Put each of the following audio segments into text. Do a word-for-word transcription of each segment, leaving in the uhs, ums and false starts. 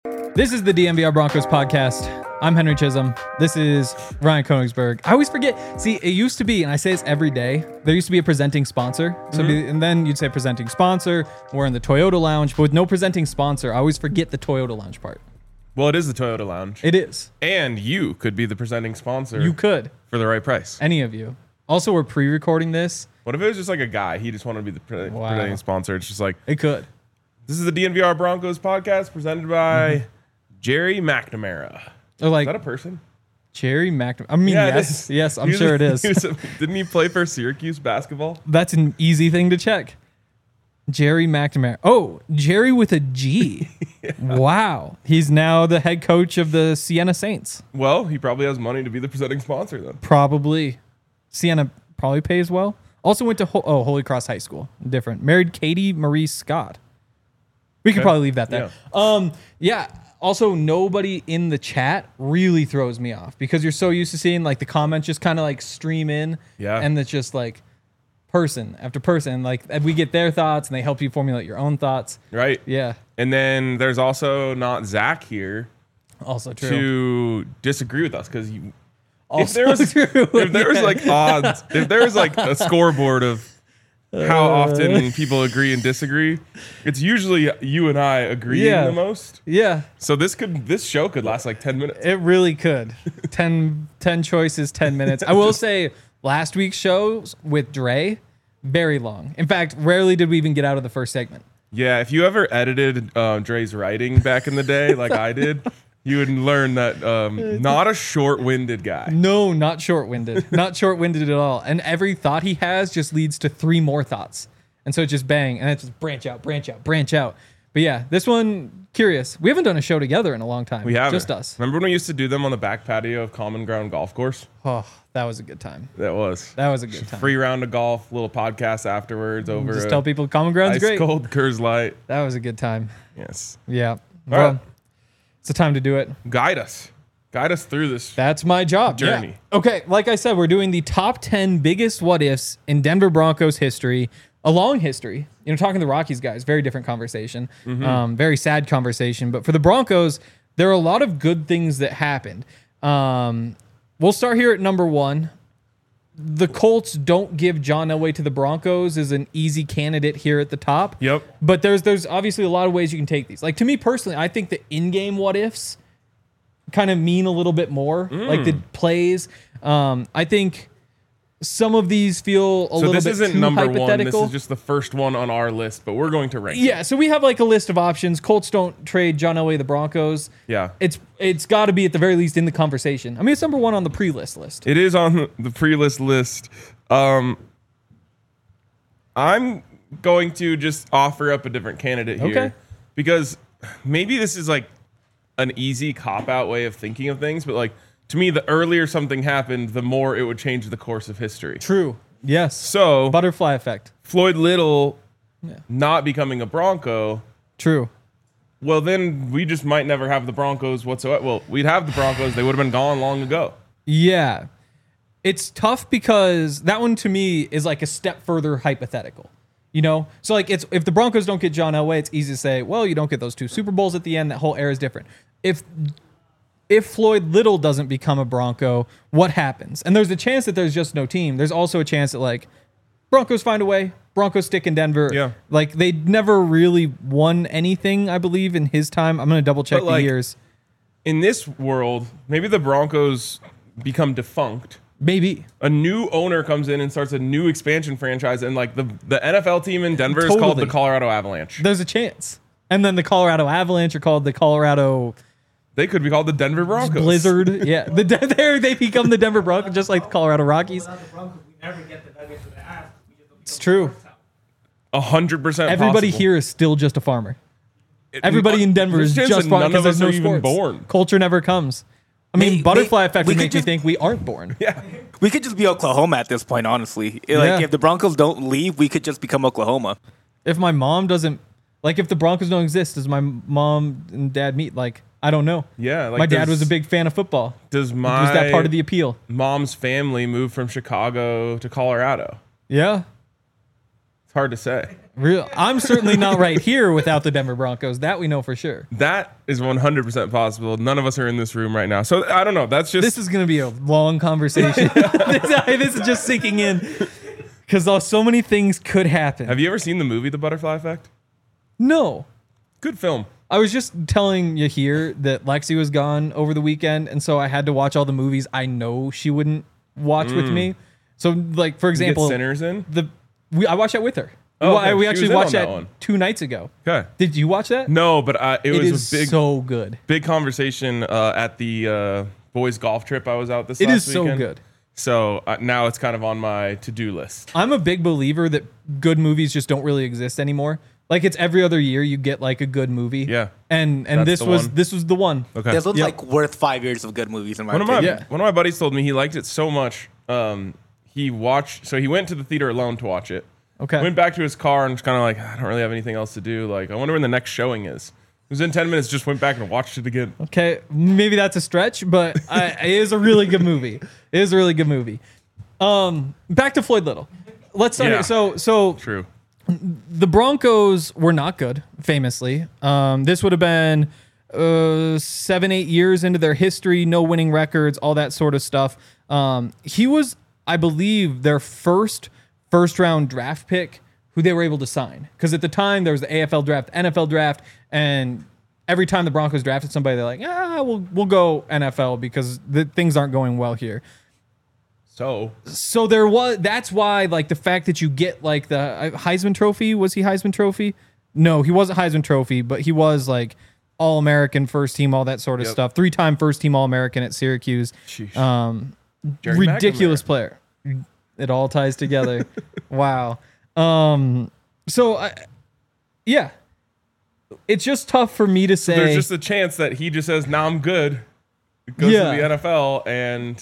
This is the D N V R Broncos podcast. I'm Henry Chisholm. This is Ryan Koenigsberg. I always forget. See, it used to be, and I say this every day, there used to be a presenting sponsor. So, mm-hmm. be, and then you'd say presenting sponsor. We're in the Toyota Lounge, but with no presenting sponsor, I always forget the Toyota Lounge part. Well, it is the Toyota Lounge. It is. And you could be the presenting sponsor. You could. For the right price. Any of you. Also, we're pre-recording this. What if it was just like a guy? He just wanted to be the pre- wow. presenting sponsor. It's just like... It could. This is the D N V R Broncos podcast presented by mm-hmm. Jerry McNamara. Or like, is that a person? Jerry McNamara. I mean, yeah, yes. Yes, I'm sure it is. A, didn't he play for Syracuse basketball? That's an easy thing to check. Jerry McNamara. Oh, Jerry with a G. Yeah. Wow. He's now the head coach of the Siena Saints. Well, he probably has money to be the presenting sponsor then. Probably. Siena probably pays well. Also went to Ho- oh Holy Cross High School. Different. Married Katie Marie Scott. We could okay. probably leave that there. Yeah. Um, yeah. Also, nobody in the chat really throws me off because you're so used to seeing like the comments just kind of like stream in. Yeah. And it's just like person after person. Like we get their thoughts and they help you formulate your own thoughts. Right. Yeah. And then there's also not Zach here. Also true. To disagree with us because you. Also if there was, true. If there was like odds, if there was like a scoreboard of how Uh, often people agree and disagree, it's usually you and I agreeing Yeah. the most. Yeah. So this could this show could last like ten minutes. It really could. ten, ten choices, ten minutes. I will say last week's shows with Dre, very long. In fact, rarely did we even get out of the first segment. Yeah, if you ever edited uh, Dre's writing back in the day, like I did, you would learn that um, not a short-winded guy. No, not short-winded. Not short-winded at all. And every thought he has just leads to three more thoughts. And so it's just bang, and it's just branch out, branch out, branch out. But yeah, this one, curious. We haven't done a show together in a long time. We haven't. Just us. Remember when we used to do them on the back patio of Common Ground Golf Course? Oh, that was a good time. That was. That was a good time. Free round of golf, little podcast afterwards over. Just tell people Common Ground's ice great. Cold Coors Light. That was a good time. Yes. Yeah. All well, right. It's the time to do it. Guide us. Guide us through this. That's my job. Journey. Yeah. Okay, like I said, we're doing the top ten biggest what ifs in Denver Broncos history, a long history. You know, talking to the Rockies guys, very different conversation, mm-hmm. um, very sad conversation. But for the Broncos, there are a lot of good things that happened. Um, we'll start here at number one. The Colts don't give John Elway to the Broncos is an easy candidate here at the top. Yep. But there's there's obviously a lot of ways you can take these. Like to me personally, I think the in-game what ifs kind of mean a little bit more. Mm. Like the plays. Um, I think some of these feel a so little bit this isn't too number hypothetical. one. This is just the first one on our list, but we're going to rank. Yeah, so we have like a list of options. Colts don't trade John Elway to the Broncos. Yeah. It's it's got to be at the very least in the conversation. I mean, it's number one on the pre-list list. It is on the pre-list list. Um, I'm going to just offer up a different candidate here. Okay. Because maybe this is like an easy cop-out way of thinking of things, but like to me, the earlier something happened, the more it would change the course of history. True. Yes. So butterfly effect. Floyd Little yeah. not becoming a Bronco. True. Well, then we just might never have the Broncos whatsoever. Well, we'd have the Broncos. They would have been gone long ago. Yeah. It's tough because that one to me is like a step further hypothetical. You know? So like it's if the Broncos don't get John Elway, it's easy to say, well, you don't get those two Super Bowls at the end. That whole era is different. If if Floyd Little doesn't become a Bronco, what happens? And there's a chance that there's just no team. There's also a chance that like Broncos find a way. Broncos stick in Denver. Yeah. Like they never really won anything, I believe, in his time. I'm gonna double check But, the like, years. In this world, maybe the Broncos become defunct. Maybe. A new owner comes in and starts a new expansion franchise, and like the, the N F L team in Denver Totally. is called the Colorado Avalanche. There's a chance. And then the Colorado Avalanche are called the Colorado They could be called the Denver Broncos. Blizzard. Yeah. The there they become the Denver Broncos, just like the Colorado Rockies. It's true. A hundred percent. Everybody possible. here is still just a farmer. It- Everybody in Denver there's is a chance just that farmer none because of us there's no are even sports. born. Culture never comes. I mean, May- butterfly may- effect we would could make me just- think we aren't born. Yeah. We could just be Oklahoma at this point, honestly. Like, Yeah. if the Broncos don't leave, we could just become Oklahoma. If my mom doesn't, like, if the Broncos don't exist, does my mom and dad meet? Like, I don't know. Yeah. Like my dad does- was a big fan of football. Does my Was that part of the appeal? mom's family move from Chicago to Colorado? Yeah. It's hard to say. Real, I'm certainly not right here without the Denver Broncos. That we know for sure. That is one hundred percent possible. None of us are in this room right now. So I don't know. That's just This is going to be a long conversation. this, this is just sinking in because so many things could happen. Have you ever seen the movie The Butterfly Effect? No. Good film. I was just telling you here that Lexi was gone over the weekend, and so I had to watch all the movies I know she wouldn't watch with me. So, like, for You get example, Sinners in? the we I watched that with her. Oh, we, okay. we She actually was in watched on that, that one. two nights ago. Okay. Did you watch that? No, but uh, it, It was is a big, so good. big conversation uh, at the uh, boys golf trip I was out this It last is so weekend. good. So uh, now it's kind of on my to-do list. I'm a big believer that good movies just don't really exist anymore. Like it's every other year you get like a good movie. Yeah. And and That's this the was one. this was the one. Okay. This one's Yep. like worth five years of good movies in my One of my opinion. Yeah. one of my buddies told me he liked it so much. Um, he watched, so he went to the theater alone to watch it. Okay. Went back to his car and was kind of like, I don't really have anything else to do. Like, I wonder when the next showing is. It was in ten minutes. Just went back and watched it again. Okay, maybe that's a stretch, but I, it is a really good movie. It is a really good movie. Um, back to Floyd Little. Let's start. Yeah. Here. So, so True. the Broncos were not good, famously. Um, this would have been uh, seven, eight years into their history, no winning records, all that sort of stuff. Um, he was, I believe, their first first round draft pick who they were able to sign. Because at the time, there was the A F L draft, N F L draft, and every time the Broncos drafted somebody, they're like, ah, we'll, we'll go N F L because the, things aren't going well here. So So there was, that's why, like, the fact that you get, like, the uh, Heisman Trophy, was he Heisman Trophy? No, he wasn't Heisman Trophy, but he was, like, All-American, first team, all that sort of Yep. stuff. Three-time first-team All-American at Syracuse. Sheesh. Um, Jerry ridiculous McNamara. player. It all ties together. Wow. Um, so, I, yeah. It's just tough for me to say. there's just a chance that he just says, "Now I'm good." Goes Yeah. to the N F L and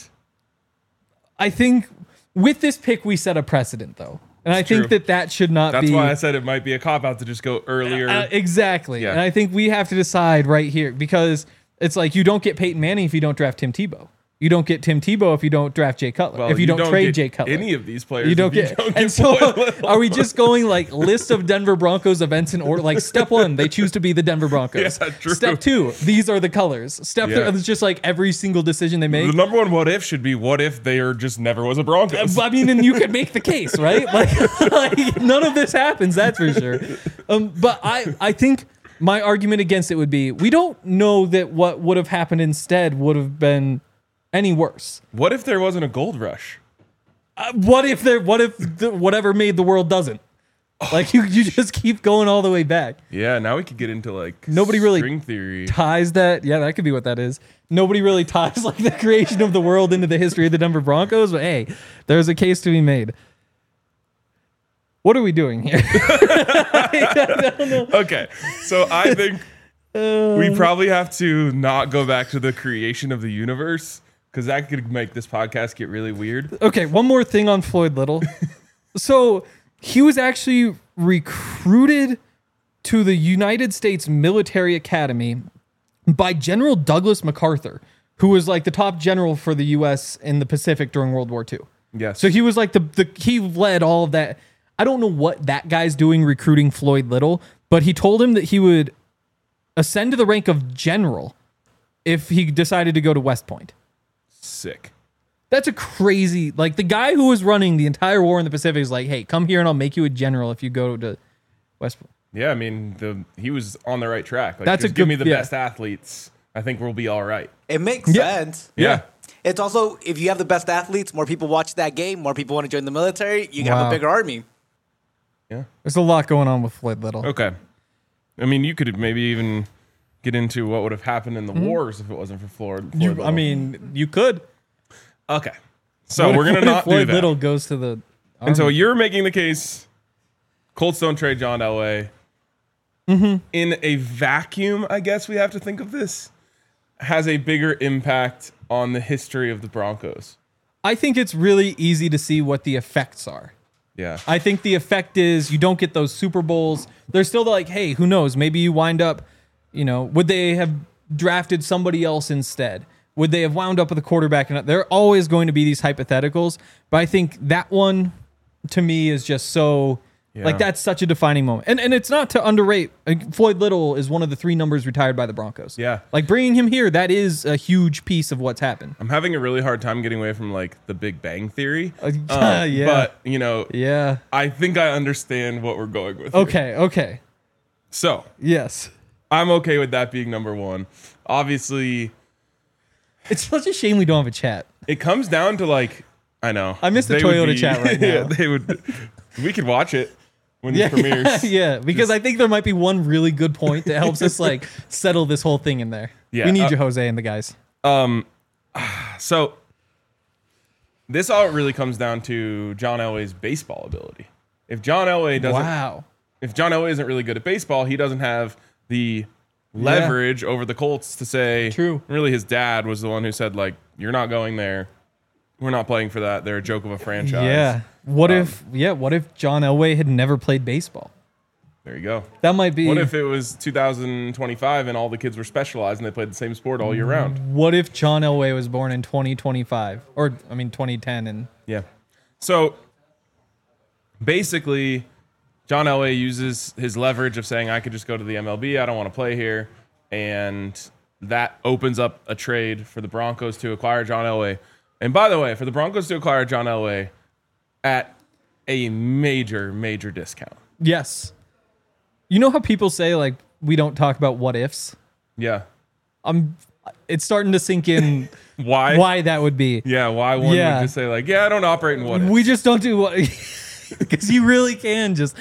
I think with this pick, we set a precedent, though. And I think true. that that should not that's be. why I said it might be a cop out to just go earlier. Uh, exactly. Yeah. And I think we have to decide right here because it's like you don't get Peyton Manning if you don't draft Tim Tebow. You don't get Tim Tebow if you don't draft Jay Cutler. Well, if you, don't, trade get Jay Cutler. any of these players, You don't if get, don't and get so Floyd Little. are we just going like list of Denver Broncos events in order? Like step one, they choose to be the Denver Broncos. Yeah, true. Step two, these are the colors. Step Yeah. three, it's just like every single decision they make. The number one what if should be what if they are just never was a Broncos. I mean, and you could make the case, right? Like, like none of this happens, that's for sure. Um, but I, I think my argument against it would be we don't know that what would have happened instead would have been any worse. What if there wasn't a gold rush? Uh, what if there? What if the, whatever made the world doesn't? Like you, you just keep going all the way back. Yeah, now we could get into like Nobody really string theory. Ties that, yeah, that could be what that is. Nobody really ties like the creation of the world into the history of the Denver Broncos, but hey, there's a case to be made. What are we doing here? Okay, so I think we probably have to not go back to the creation of the universe because that could make this podcast get really weird. Okay, one more thing on Floyd Little. So he was actually recruited to the United States Military Academy by General Douglas MacArthur, who was like the top general for the U S in the Pacific during World War Two. Yes. So he was like the, the he led all of that. I don't know what that guy's doing recruiting Floyd Little, but he told him that he would ascend to the rank of general if he decided to go to West Point. Sick. That's a crazy, like the guy who was running the entire war in the Pacific is like, hey, come here and I'll make you a general if you go to West Point. Yeah, I mean, the he was on the right track. Like, That's just a give good- me the yeah. best athletes. I think we'll be all right. It makes Yeah. sense. Yeah. It's also, if you have the best athletes, more people watch that game, more people want to join the military, you can have Wow. a bigger army. Yeah. There's a lot going on with Floyd Little. Okay. I mean, you could maybe even get into what would have happened in the wars if it wasn't for Floyd. Floyd You, Little. I mean, you could. okay. So What we're if- gonna what if not Floyd do that. Little goes to the And so army? you're making the case Colts don't trade John Elway. Mm-hmm. In a vacuum, I guess we have to think of this, has a bigger impact on the history of the Broncos. I think it's really easy to see what the effects are. Yeah. I think the effect is you don't get those Super Bowls. They're still like, hey, who knows? Maybe you wind up, you know, would they have drafted somebody else instead? Would they have wound up with a quarterback? And there are always going to be these hypotheticals. But I think that one, to me, is just so Yeah. Like that's such a defining moment. And and it's not to underrate. Like, Floyd Little is one of the three numbers retired by the Broncos. Yeah. Like bringing him here, that is a huge piece of what's happened. I'm having a really hard time getting away from like the Big Bang Theory. Uh, Um, yeah. But, you know, Yeah. I think I understand what we're going with. here. Okay. Okay. So Yes. I'm okay with that being number one. Obviously, It's such a shame we don't have a chat. it comes down to like, I know. I miss the They would Toyota be- chat right Yeah, now. they would. We could watch it when Yeah, it premieres. yeah, because I think there might be one really good point that helps us like settle this whole thing in there. Yeah, we need uh, you, Jose, and the guys. So this all really comes down to John Elway's baseball ability. If John Elway doesn't, Wow. if John Elway isn't really good at baseball, he doesn't have the leverage over the Colts to say. True. Really, his dad was the one who said like, "You're not going there. We're not playing for that. They're a joke of a franchise." Yeah. What Um, if? Yeah. What if John Elway had never played baseball? There you go. That might be. What if it was two thousand twenty-five and all the kids were specialized and they played the same sport all year round? What if John Elway was born in twenty twenty-five or I mean twenty ten and Yeah. So basically, John Elway uses his leverage of saying, I could just go to the M L B. I don't want to play here. And that opens up a trade for the Broncos to acquire John Elway. And by the way, for the Broncos to acquire John Elway at a major, major discount. yes. You know how people say like we don't talk about what ifs? Yeah. I'm it's starting to sink in Why? why that would be. Yeah, why one Yeah. would just say like, yeah, I don't operate in what ifs. We just don't do what because you really can just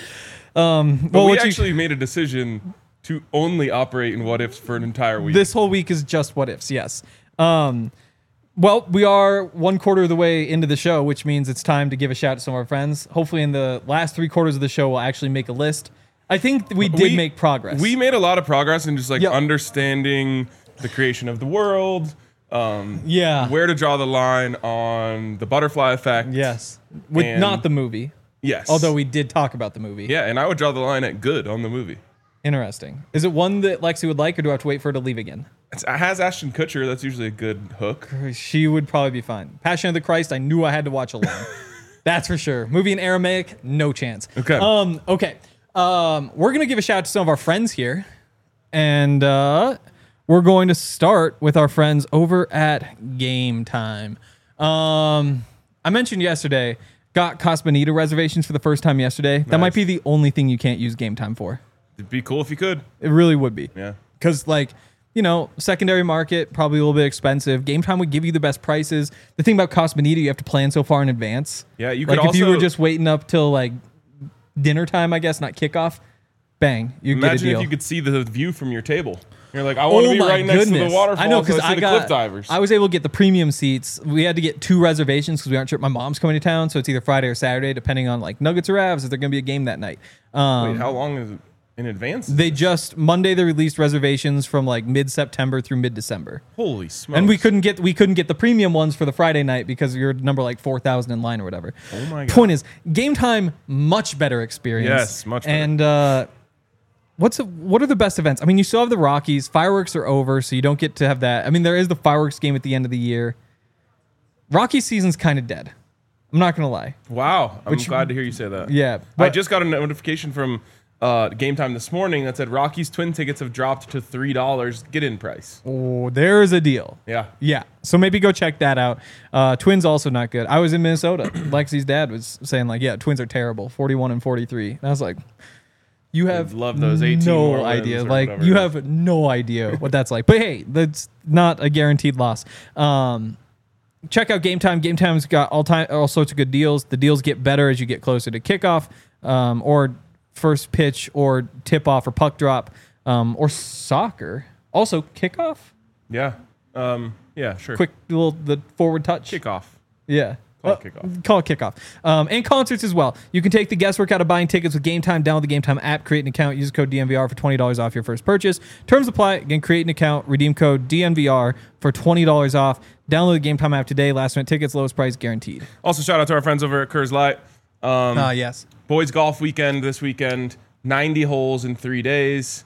um But well we what you- actually made a decision to only operate in what ifs for an entire week. this whole week is just what ifs, yes. Um well, we are one quarter of the way into the show, which means it's time to give a shout to some of our friends. Hopefully in the last three quarters of the show we'll actually make a list. I think we did We- make progress. We made a lot of progress in just like Yep. understanding the creation of the world, um, yeah. where to draw the line on the butterfly effect. Yes. With And- not the movie. Yes. Although we did talk about the movie. Yeah, and I would draw the line at good on the movie. Interesting. Is it one that Lexi would like, or do I have to wait for her to leave again? It's, it has Ashton Kutcher. That's usually a good hook. She would probably be fine. Passion of the Christ, I knew I had to watch alone. That's for sure. Movie in Aramaic, no chance. Okay. Um, okay. Um, we're going to give a shout out to some of our friends here. And uh, we're going to start with our friends over at Game Time. Um, I mentioned yesterday, got Cosmonita reservations for the first time yesterday. That might Nice. be the only thing you can't use Game Time for. It'd be cool if you could. It really would be. Yeah. Because, like, you know, secondary market, probably a little bit expensive. Game Time would give you the best prices. The thing about Cosmonita, you have to plan so far in advance. Yeah, you could Like, if you were also- just waiting up till, like, dinner time, I guess, not kickoff, bang, you get a Imagine deal. if you could see the view from your table. You're like, I want to Oh be my right next to goodness. the waterfall. I know, so because I, I, see got, the cliff divers. I was able to get the premium seats. We had to get two reservations because we aren't sure. My mom's coming to town, so it's either Friday or Saturday, depending on, like, Nuggets or Avs, if they're going to be a game that night. Um, Wait, how long is it in advance? they just, Monday, they released reservations from, like, mid-September through mid-December. Holy smokes. And we couldn't get we couldn't get the premium ones for the Friday night because you're number like four thousand in line or whatever. Oh my God. Point is, Game Time, much better experience. Yes, much better. And uh, what's a, what are the best events? I mean, you still have the Rockies. Fireworks are over, so you don't get to have that. I mean, there is the fireworks game at the end of the year. Rocky season's kind of dead. I'm not gonna lie. Wow. I'm Which- glad to hear you say that. Yeah, I but- just got a notification from uh, Game Time this morning that said Rockies twin tickets have dropped to three dollars get in price. Oh, there's a deal. Yeah. Yeah. So maybe go check that out. Uh, Twins also not good. I was in Minnesota. Lexi's dad was saying like, yeah, Twins are terrible, forty-one and forty-three. And I was like, you have love those eighteen more no wins idea. or Like whatever you it have no idea what that's like. But hey, that's not a guaranteed loss. Um, check out Game Time. Game Time's got all time all sorts of good deals. The deals get better as you get closer to kickoff, um, or first pitch, or tip off, or puck drop, um, or soccer. Also kickoff. Yeah. Um, yeah, sure. Quick little the forward touch. kickoff. Yeah. Call it Uh, kickoff. Call it kickoff. Um, and concerts as well. You can take the guesswork out of buying tickets with Game Time. Download the Game Time app, create an account, use code D N V R for twenty dollars off your first purchase. Terms apply. Again, create an account, redeem code D N V R for twenty dollars off. Download the Game Time app today. Last minute tickets, lowest price guaranteed. Also, shout out to our friends over at Coors Light. Um, Ah, yes. boys golf weekend this weekend. ninety holes in three days.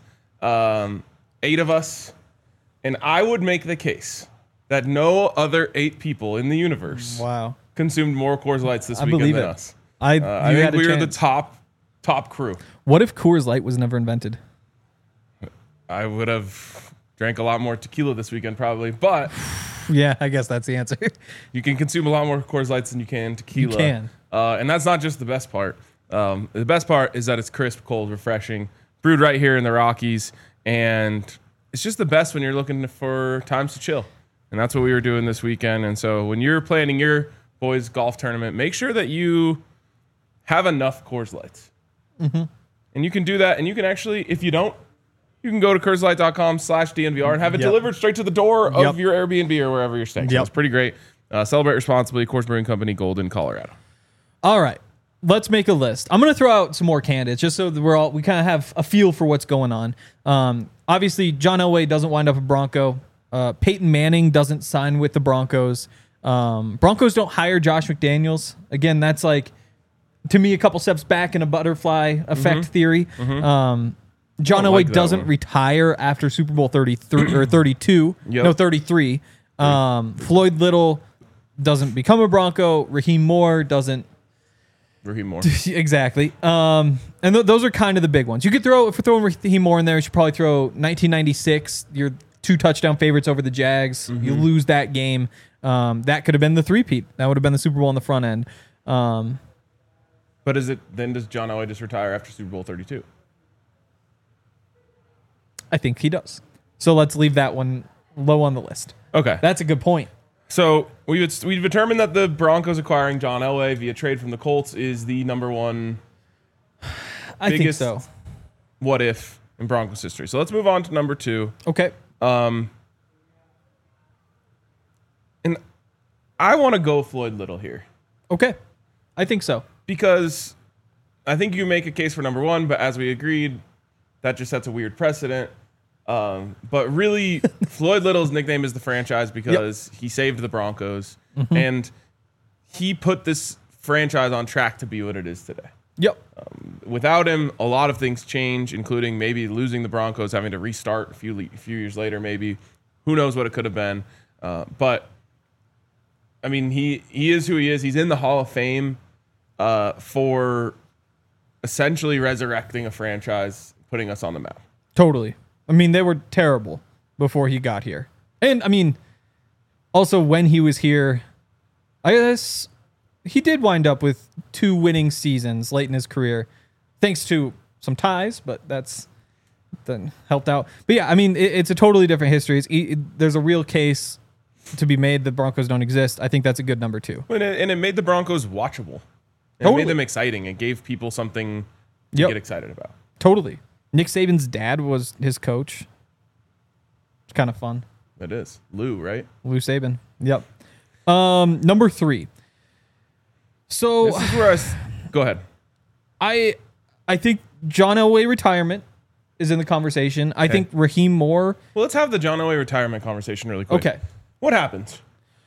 Um, eight of us. And I would make the case that no other eight people in the universe Wow. consumed more Coors Lights this I weekend believe than it. us. I, Uh, I you think had a we were the chance. top top crew. What if Coors Light was never invented? I would have drank a lot more tequila this weekend probably, but Yeah, I guess that's the answer. you can consume a lot more Coors Lights than you can tequila. You can. Uh, and that's not just the best part. Um, the best part is that it's crisp, cold, refreshing, brewed right here in the Rockies. And it's just the best when you're looking for times to chill. And that's what we were doing this weekend. And so when you're planning your boys' golf tournament, make sure that you have enough Coors Lights. Mm-hmm. And you can do that. And you can actually, if you don't, you can go to CoorsLight.com slash DNVR and have it Yep. delivered straight to the door of Yep. your Airbnb or wherever you're staying. So Yep. it's pretty great. Uh, celebrate responsibly. Coors Brewing Company, Golden, Colorado. All right, let's make a list. I'm going to throw out some more candidates just so that we're all we kind of have a feel for what's going on. Um, obviously, John Elway doesn't wind up a Bronco. Uh, Peyton Manning doesn't sign with the Broncos. Um, Broncos don't hire Josh McDaniels. Again, that's like, to me, a couple steps back in a butterfly effect theory. Um, John Don't Elway like that doesn't one. retire after Super Bowl thirty-three or thirty-two. Yep. No, thirty-three. Um, Floyd Little doesn't become a Bronco. Raheem Moore doesn't. Raheem Moore. Exactly. Um, and th- those are kind of the big ones. You could throw, if we're throwing Raheem Moore in there, you should probably throw nineteen ninety-six, your two touchdown favorites over the Jags. You lose that game. Um, that could have been the three-peat. That would have been the Super Bowl on the front end. Um, But is it then does John Elway just retire after Super Bowl thirty-two? I think he does. So let's leave that one low on the list. Okay. That's a good point. So we would, we've determined that the Broncos acquiring John Elway via trade from the Colts is the number one I Biggest- think so. what if in Broncos history. So let's move on to number two. Okay. Um, and I want to go Floyd Little here Okay. I think so. because I think you make a case for number one, but as we agreed, that just sets a weird precedent. Um, but really, Floyd Little's nickname is the franchise because he saved the Broncos and he put this franchise on track to be what it is today. Yep. Without him, a lot of things change, including maybe losing the Broncos, having to restart a few le- few years later. Maybe who knows what it could have been. Uh, but I mean, he he is who he is. He's in the Hall of Fame uh, for essentially resurrecting a franchise, putting us on the map. Totally. I mean, they were terrible before he got here. And I mean, also when he was here, I guess he did wind up with two winning seasons late in his career, thanks to some ties, but that's then helped out. But yeah, I mean, it, it's a totally different history. It's, it, there's a real case to be made that Broncos don't exist. I think that's a good number two. And it, and it made the Broncos watchable. It Totally. made them exciting. It gave people something to Yep. get excited about. Totally. Nick Saban's dad was his coach. It's kind of fun. It is. Lou, right? Lou Saban. Yep. Um, number three. So This is where I... s- Go ahead. I I think John Elway retirement is in the conversation. I think Raheem Moore. Well, let's have the John Elway retirement conversation really quick. Okay. What happens?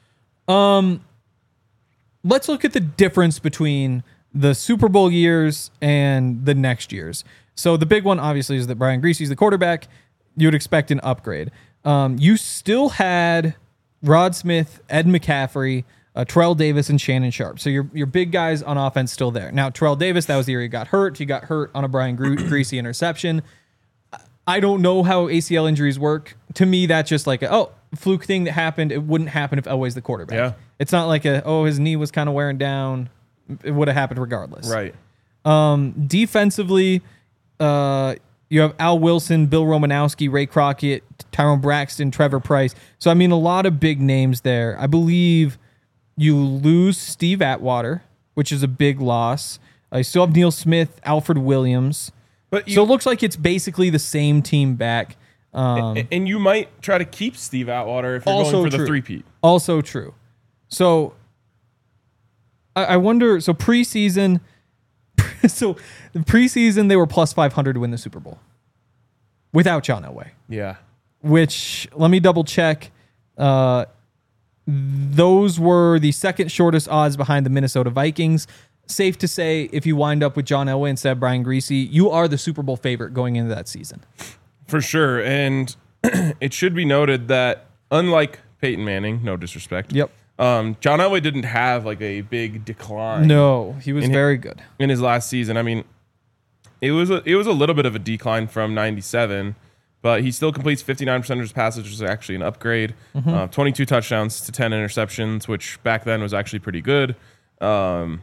Let's look at the difference between the Super Bowl years and the next years. So the big one, obviously, is that Brian Greasy's the quarterback. You would expect an upgrade. Um, you still had Rod Smith, Ed McCaffrey, uh, Terrell Davis, and Shannon Sharp. So your your big guys on offense still there. Now, Terrell Davis, that was the year he got hurt. He got hurt on a Brian Gre- Greasy interception. I don't know how A C L injuries work. To me, that's just like a, oh, fluke thing that happened. It wouldn't happen if Elway's the quarterback. Yeah. It's not like a, oh, his knee was kind of wearing down. It would have happened regardless. Right. Defensively, uh, you have Al Wilson, Bill Romanowski, Ray Crockett, Tyrone Braxton, Trevor Price. So, I mean, a lot of big names there. I believe you lose Steve Atwater, which is a big loss. Uh, you still have Neil Smith, Alfred Williams. But you, So it looks like it's basically the same team back. Um, a- and you might try to keep Steve Atwater if you're Also going for the true. three-peat. Also true. So I, I wonder. So preseason, so the preseason they were plus five hundred to win the Super Bowl without John Elway. Yeah. Which let me double check. Uh, those were the second shortest odds behind the Minnesota Vikings. Safe to say, if you wind up with John Elway instead of Brian Greasy, you are the Super Bowl favorite going into that season. For sure. And it should be noted that unlike Peyton Manning, no disrespect. Yep. Um, John Elway didn't have like a big decline No, he was In hi- very good. in his last season. I mean, it was a, it was a little bit of a decline from ninety-seven, but he still completes fifty-nine percent of his passes, which is actually an upgrade. Mm-hmm. Uh, twenty-two touchdowns to ten interceptions, which back then was actually pretty good. Um,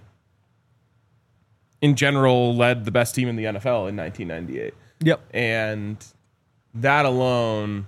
in general, led the best team in the N F L in nineteen ninety-eight. Yep. And that alone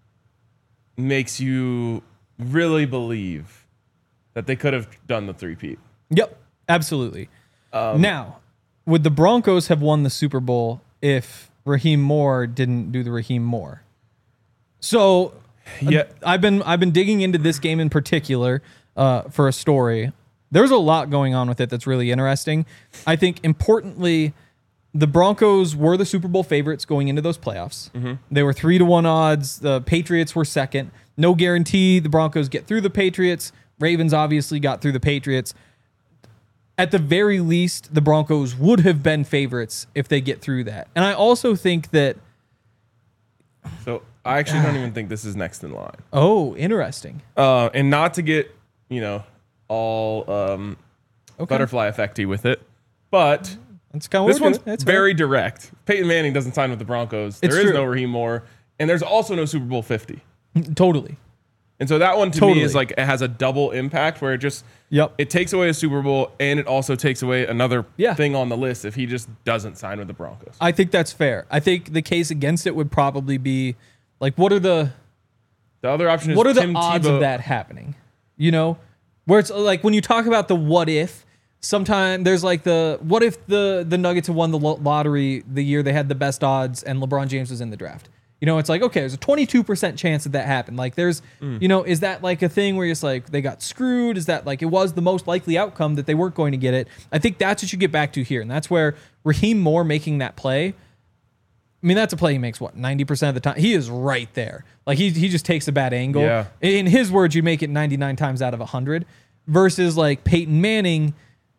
makes you really believe that they could have done the three-peat. Yep, absolutely. Um, now, would the Broncos have won the Super Bowl if Raheem Moore didn't do the Raheem Moore? So, yeah, uh, I've been I've been digging into this game in particular uh, for a story. There's a lot going on with it that's really interesting. I think importantly, the Broncos were the Super Bowl favorites going into those playoffs. Mm-hmm. They were three to one odds. The Patriots were second. No guarantee the Broncos get through the Patriots. Ravens obviously got through the Patriots. At the very least, the Broncos would have been favorites if they get through that. And I also think that... So I actually don't even think this is next in line. Oh, interesting. Uh, and not to get, you know, all um, okay. butterfly effecty with it, but That's kind of this one's That's very fair. direct. Peyton Manning doesn't sign with the Broncos. It's there is true. no Raheem Moore, and there's also no Super Bowl fifty. Totally. And so that one to Totally. me is like it has a double impact where it just Yep. it takes away a Super Bowl and it also takes away another Yeah. thing on the list if he just doesn't sign with the Broncos. I think that's fair. I think the case against it would probably be like, what are the The other option is what are the Tim odds Tebow. of that happening? You know, where it's like when you talk about the what if. Sometimes there's like the what if the the Nuggets had won the lo- lottery the year they had the best odds and LeBron James was in the draft. You know, it's like, okay, there's a twenty-two percent chance that that happened. Like there's, mm. you know, is that like a thing where it's like they got screwed? Is that like it was the most likely outcome that they weren't going to get it? I think that's what you get back to here. And that's where Raheem Moore making that play. I mean, that's a play he makes, what, ninety percent of the time? He is right there. Like he he just takes a bad angle. Yeah. In his words, you make it ninety-nine times out of one hundred versus like Peyton Manning.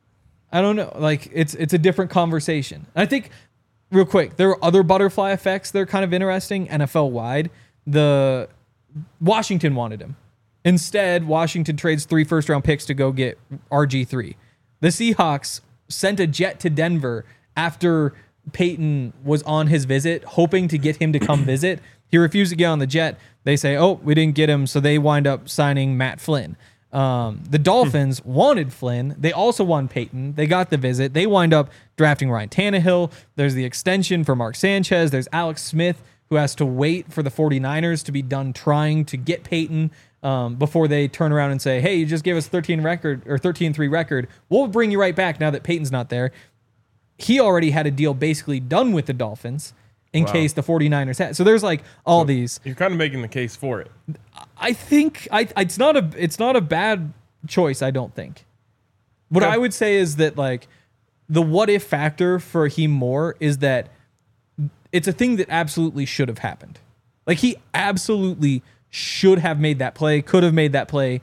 I don't know. Like it's it's a different conversation. I think real quick, there are other butterfly effects that are kind of interesting N F L wide. The Washington wanted him. Instead, Washington trades three first round picks to go get R G three. The Seahawks sent a jet to Denver after Peyton was on his visit, hoping to get him to come visit. He refused to get on the jet. They say, oh, we didn't get him. So they wind up signing Matt Flynn. Um, the Dolphins wanted Flynn. They also wanted Peyton. They got the visit. They wind up drafting Ryan Tannehill. There's the extension for Mark Sanchez. There's Alex Smith, who has to wait for the 49ers to be done trying to get Peyton um, before they turn around and say, hey, you just gave us thirteen record or thirteen three record. We'll bring you right back now that Peyton's not there. He already had a deal basically done with the Dolphins in Wow. case the 49ers had. So there's like all So these. You're kind of making the case for it. I think I it's not a it's not a bad choice, I don't think. What Okay. I would say is that like the what if factor for Raheem Moore is that it's a thing that absolutely should have happened. Like he absolutely should have made that play, could have made that play.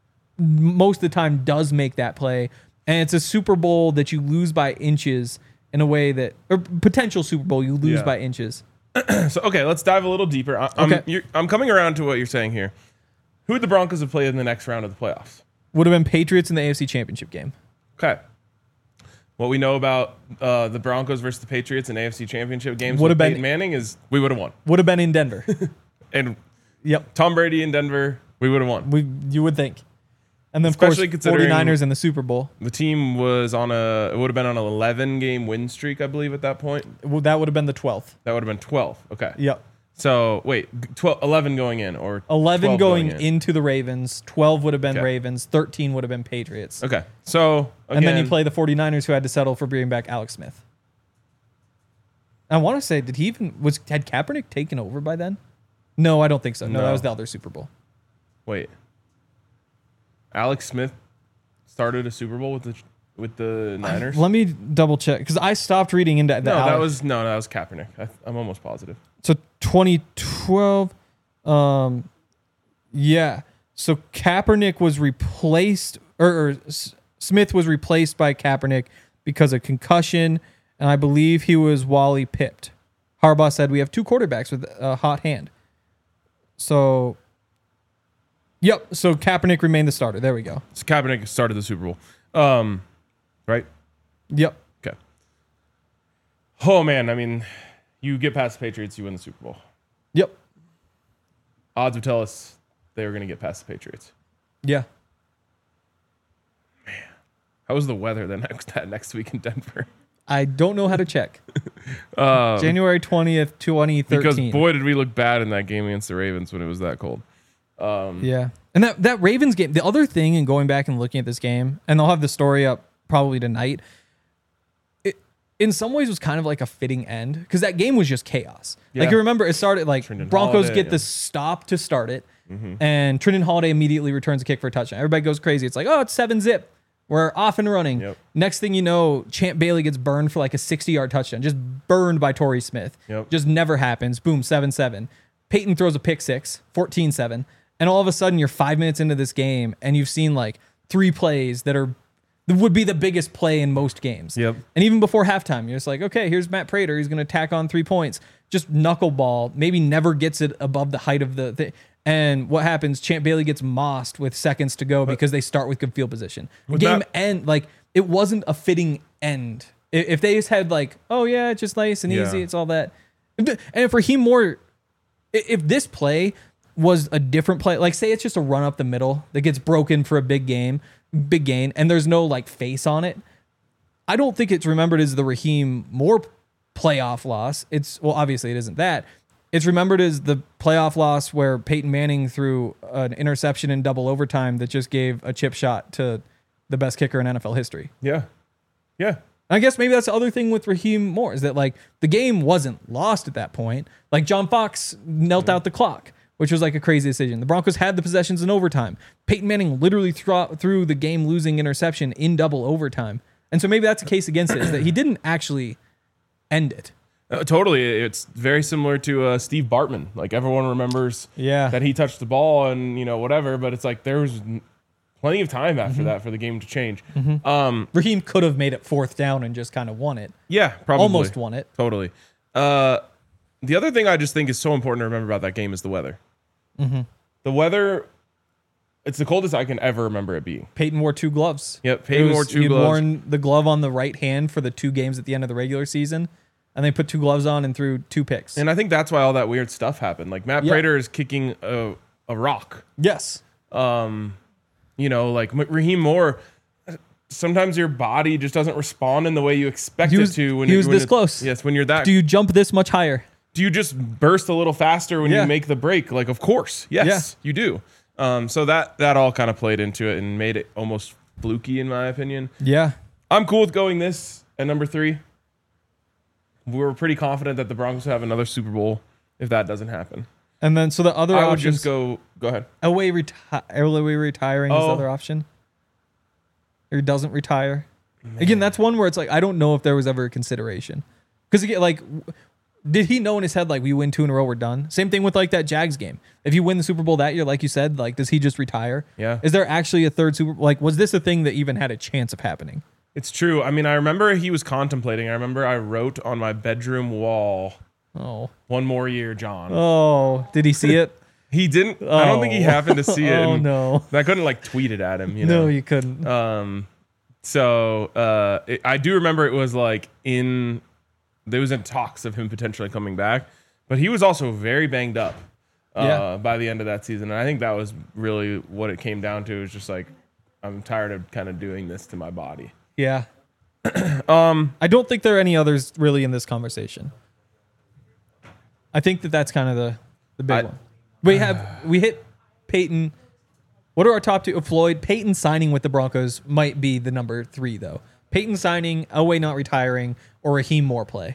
Most of the time does make that play. And it's a Super Bowl that you lose by inches in a way that, or potential Super Bowl you lose Yeah. by inches. So, okay, let's dive a little deeper. I, I'm, Okay. you're, I'm coming around to what you're saying here. Who would the Broncos have played in the next round of the playoffs? Would have been Patriots in the A F C Championship game. Okay. What we know about uh, the Broncos versus the Patriots in A F C Championship games Would with have been- Peyton Manning is we would have won. Would have been in Denver. And Yep. Tom Brady in Denver, we would have won. We you would think. And then Especially of course considering- 49ers in the Super Bowl. The team was on a, it would have been on an eleven game win streak, I believe, at that point. Well, that would have been the twelfth. That would have been twelve. Okay. Yep. So, wait, twelve, eleven going in or eleven twelve going, in? into the Ravens, twelve would have been Okay. Ravens, thirteen would have been Patriots. Okay. So, again, And then you play the 49ers who had to settle for bringing back Alex Smith. I want to say, did he even, was had Kaepernick taken over by then? No, I don't think so. No, No. that was the other Super Bowl. Wait. Alex Smith started a Super Bowl with the with the Niners? Let me double check because I stopped reading into the no, that Alex- was no, that was Kaepernick. I, I'm almost positive. So twenty twelve, um, yeah. So Kaepernick was replaced, or, or S- Smith was replaced by Kaepernick because of concussion, and I believe he was Wally pipped. Harbaugh said we have two quarterbacks with a hot hand. So, yep. So Kaepernick remained the starter. There we go. So Kaepernick started the Super Bowl. Um, right? Yep. Okay. Oh man, I mean, you get past the Patriots, you win the Super Bowl. Yep. Odds would tell us they were going to get past the Patriots. Yeah. How was the weather the next that next week in Denver? I don't know how to check. Um, January twentieth, twenty thirteen. Because boy, did we look bad in that game against the Ravens when it was that cold. Um, Yeah. And that, that Ravens game, the other thing in going back and looking at this game, and they'll have the story up probably tonight, it in some ways was kind of like a fitting end because that game was just chaos. Yeah. Like you remember, it started like Trindon Broncos Holiday, get yeah. the stop to start it, Mm-hmm. and Trindon Holiday immediately returns a kick for a touchdown. Everybody goes crazy. It's like, oh, it's seven zip. We're off and running. Yep. Next thing you know, Champ Bailey gets burned for like a sixty-yard touchdown. Just burned by Torrey Smith. Yep. Just never happens. Boom, seven seven. Peyton throws a pick six, fourteen seven. And all of a sudden, you're five minutes into this game, and you've seen like three plays that are that would be the biggest play in most games. Yep. And even before halftime, you're just like, okay, here's Matt Prater. He's going to tack on three points. Just knuckleball. Maybe never gets it above the height of the thing. And what happens? Champ Bailey gets mossed with seconds to go because they start with good field position. Game that- end, like it wasn't a fitting end. I- If they just had like, oh yeah, it's just nice and Yeah. easy, it's all that. And if Raheem Moore, i- if this play was a different play, like say it's just a run up the middle that gets broken for a big game, big gain, and there's no like face on it, I don't think it's remembered as the Raheem Moore playoff loss. It's well, obviously it isn't that. It's remembered as the playoff loss where Peyton Manning threw an interception in double overtime that just gave a chip shot to the best kicker in N F L history. Yeah. Yeah. And I guess maybe that's the other thing with Raheem Moore is that like the game wasn't lost at that point. Like John Fox knelt out the clock, which was like a crazy decision. The Broncos had the possessions in overtime. Peyton Manning literally threw, threw the game losing interception in double overtime. And so maybe that's a case against it is that he didn't actually end it. Uh, totally. It's very similar to uh, Steve Bartman. Like everyone remembers Yeah. that he touched the ball and, you know, whatever, but it's like there was n- plenty of time after Mm-hmm. that for the game to change. Um, Raheem could have made it fourth down and just kind of won it. yeah, probably. Almost won it. Totally. Uh, the other thing I just think is so important to remember about that game is the weather. Mm-hmm. The weather, it's the coldest I can ever remember it being. Peyton wore two gloves. Yep, Peyton It was- wore two he'd gloves. worn the glove on the right hand for the two games at the end of the regular season, and they put two gloves on and threw two picks. And I think that's why all that weird stuff happened. Like Matt Yeah. Prater is kicking a, a rock. yes. Um, you know, like M- Raheem Moore, sometimes your body just doesn't respond in the way you expect He was- it to. When he you're- was when this it- close. Yes, when you're that. Do you jump this much higher? do you just burst a little faster when Yeah. you make the break? Like, of course, yes, you do. Um, so that that all kind of played into it and made it almost fluky, in my opinion. Yeah. I'm cool with going this at number three. We were pretty confident that the Broncos would have another Super Bowl if that doesn't happen. And then so the other I would options, just go. Go ahead. away reti- away retiring is the Oh. other option. Or he doesn't retire. Again, that's one where it's like I don't know if there was ever a consideration. Because again, like, w- did he know in his head like we win two in a row, we're done? Same thing with like that Jags game. If you win the Super Bowl that year, like you said, like does he just retire? Yeah. Is there actually a third Super? Like, was this a thing that even had a chance of happening? It's true. I mean, I remember he was contemplating. I remember I wrote on my bedroom wall, Oh, "One more year, John." oh, did he see it? He didn't. I don't think he Oh. happened to see it. Oh and no, I couldn't like tweet it at him. You know. no, you couldn't. Um. So uh, it, I do remember it was like in there was in talks of him potentially coming back, but he was also very banged up uh, Yeah. by the end of that season, and I think that was really what it came down to. Is just like I'm tired of kind of doing this to my body. Yeah. um, I don't think there are any others really in this conversation. I think that that's kind of the the big I- one. We have we hit Peyton. What are our top two? Floyd Peyton signing with the Broncos might be the number three though. Peyton signing, Elway not retiring, or Raheem Moore play.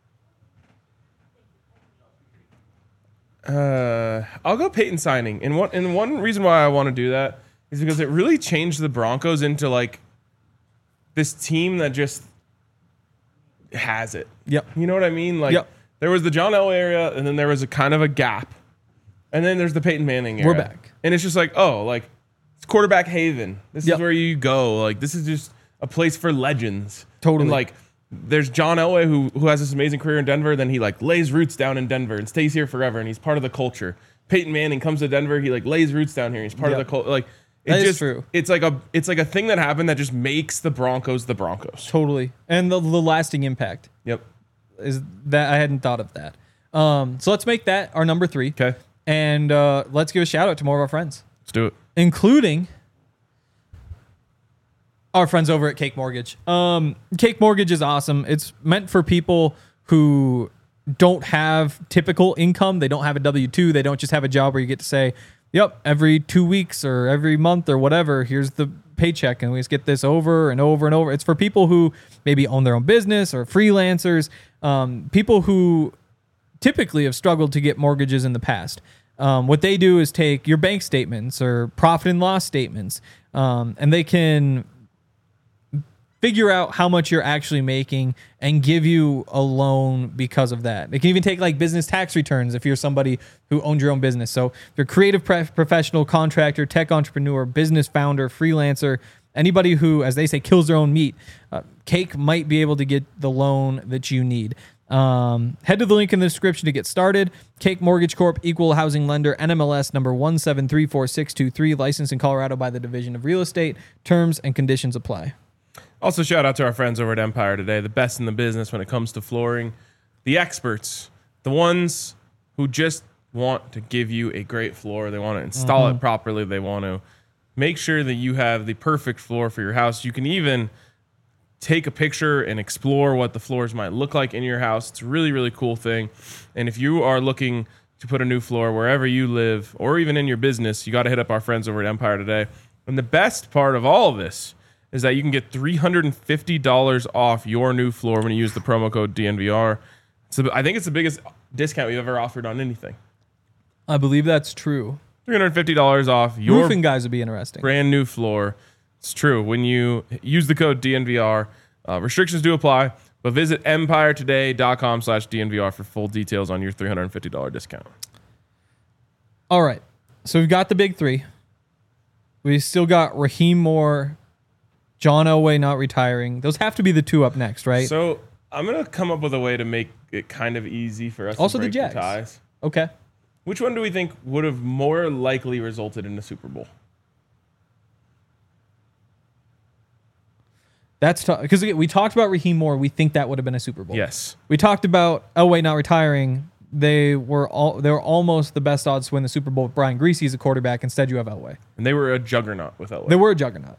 Uh, I'll go Peyton signing, and one and one reason why I want to do that is because it really changed the Broncos into like this team that just has it. Yep. You know what I mean? Like Yep. there was the John Elway area, and then there was a kind of a gap, and then there's the Peyton Manning era. We're back. and it's just like, oh, like it's quarterback haven. This Yep. is where you go. Like this is just a place for legends. Totally. And like there's John Elway who who has this amazing career in Denver. Then he like lays roots down in Denver and stays here forever, and he's part of the culture. Peyton Manning comes to Denver. He like lays roots down here. He's part Yep. of the culture. Like it That is just true. It's like a it's like a thing that happened that just makes the Broncos the Broncos. Totally, and the, the lasting impact. Yep. is that I hadn't thought of that. Um, so let's make that our number three. Okay. And uh, let's give a shout out to more of our friends, Let's do it. including our friends over at Cake Mortgage. Um, Cake Mortgage is awesome. It's meant for people who don't have typical income. They don't have a W two. They don't just have a job where you get to say, yep, every two weeks or every month or whatever, here's the paycheck, and we just get this over and over and over. It's for people who maybe own their own business or freelancers, um, people who typically have struggled to get mortgages in the past. Um, what they do is take your bank statements or profit and loss statements, um, and they can figure out how much you're actually making and give you a loan because of that. They can even take like business tax returns if you're somebody who owns your own business. So if you're a creative pre- professional, contractor, tech entrepreneur, business founder, freelancer, anybody who, as they say, kills their own meat, uh, Cake might be able to get the loan that you need. Um, head to the link in the description to get started. Cake Mortgage Corp, equal housing lender, N M L S number one seven three four six two three, licensed in Colorado by the Division of Real Estate. Terms and conditions apply. Also, shout out to our friends over at Empire Today, the best in the business when it comes to flooring. The experts, the ones who just want to give you a great floor. They want to install Mm-hmm. it properly. They want to make sure that you have the perfect floor for your house. You can even take a picture and explore what the floors might look like in your house. It's a really, really cool thing. And if you are looking to put a new floor wherever you live or even in your business, you got to hit up our friends over at Empire Today. And the best part of all of this is that you can get three hundred fifty dollars off your new floor when you use the promo code D N V R. So I think it's the biggest discount we've ever offered on anything. I believe that's true. three hundred fifty dollars off your Roofing guys would be interesting. brand new floor. It's true. When you use the code D N V R, uh, restrictions do apply, but visit empire today dot com slash D N V R for full details on your three hundred fifty dollars discount. All right. So we've got the big three. We still got Raheem Moore, John Elway not retiring. Those have to be the two up next, right? So I'm going to come up with a way to make it kind of easy for us Also to the break Jags. ties. Okay. Which one do we think would have more likely resulted in a Super Bowl? That's tough. Because we talked about Raheem Moore. We think that would have been a Super Bowl. Yes. We talked about Elway not retiring. They were all they were almost the best odds to win the Super Bowl with Brian Griese as a quarterback. Instead, you have Elway. And they were a juggernaut with Elway. They were a juggernaut.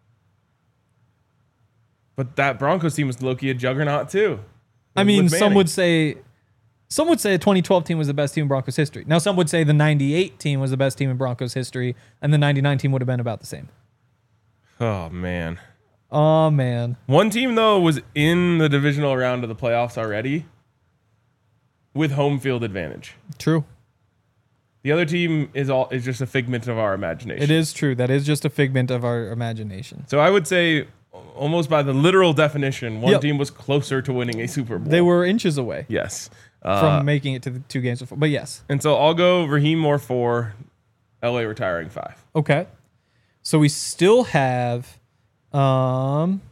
But that Broncos team was low-key a juggernaut too. I mean, With some Manning. would say, some would say the twenty twelve team was the best team in Broncos history. Now, some would say the ninety-eight team was the best team in Broncos history, and the ninety-nine team would have been about the same. Oh, man. Oh man, One team, though, was in the divisional round of the playoffs already with home field advantage. true. The other team is all is just a figment of our imagination. It is true. That is just a figment of our imagination. So I would say, almost by the literal definition, one Yep. team was closer to winning a Super Bowl. They were inches away Yes. Uh, from making it to the two games before. But yes, and so I'll go Raheem Moore four, L A retiring five. okay. So we still have, um,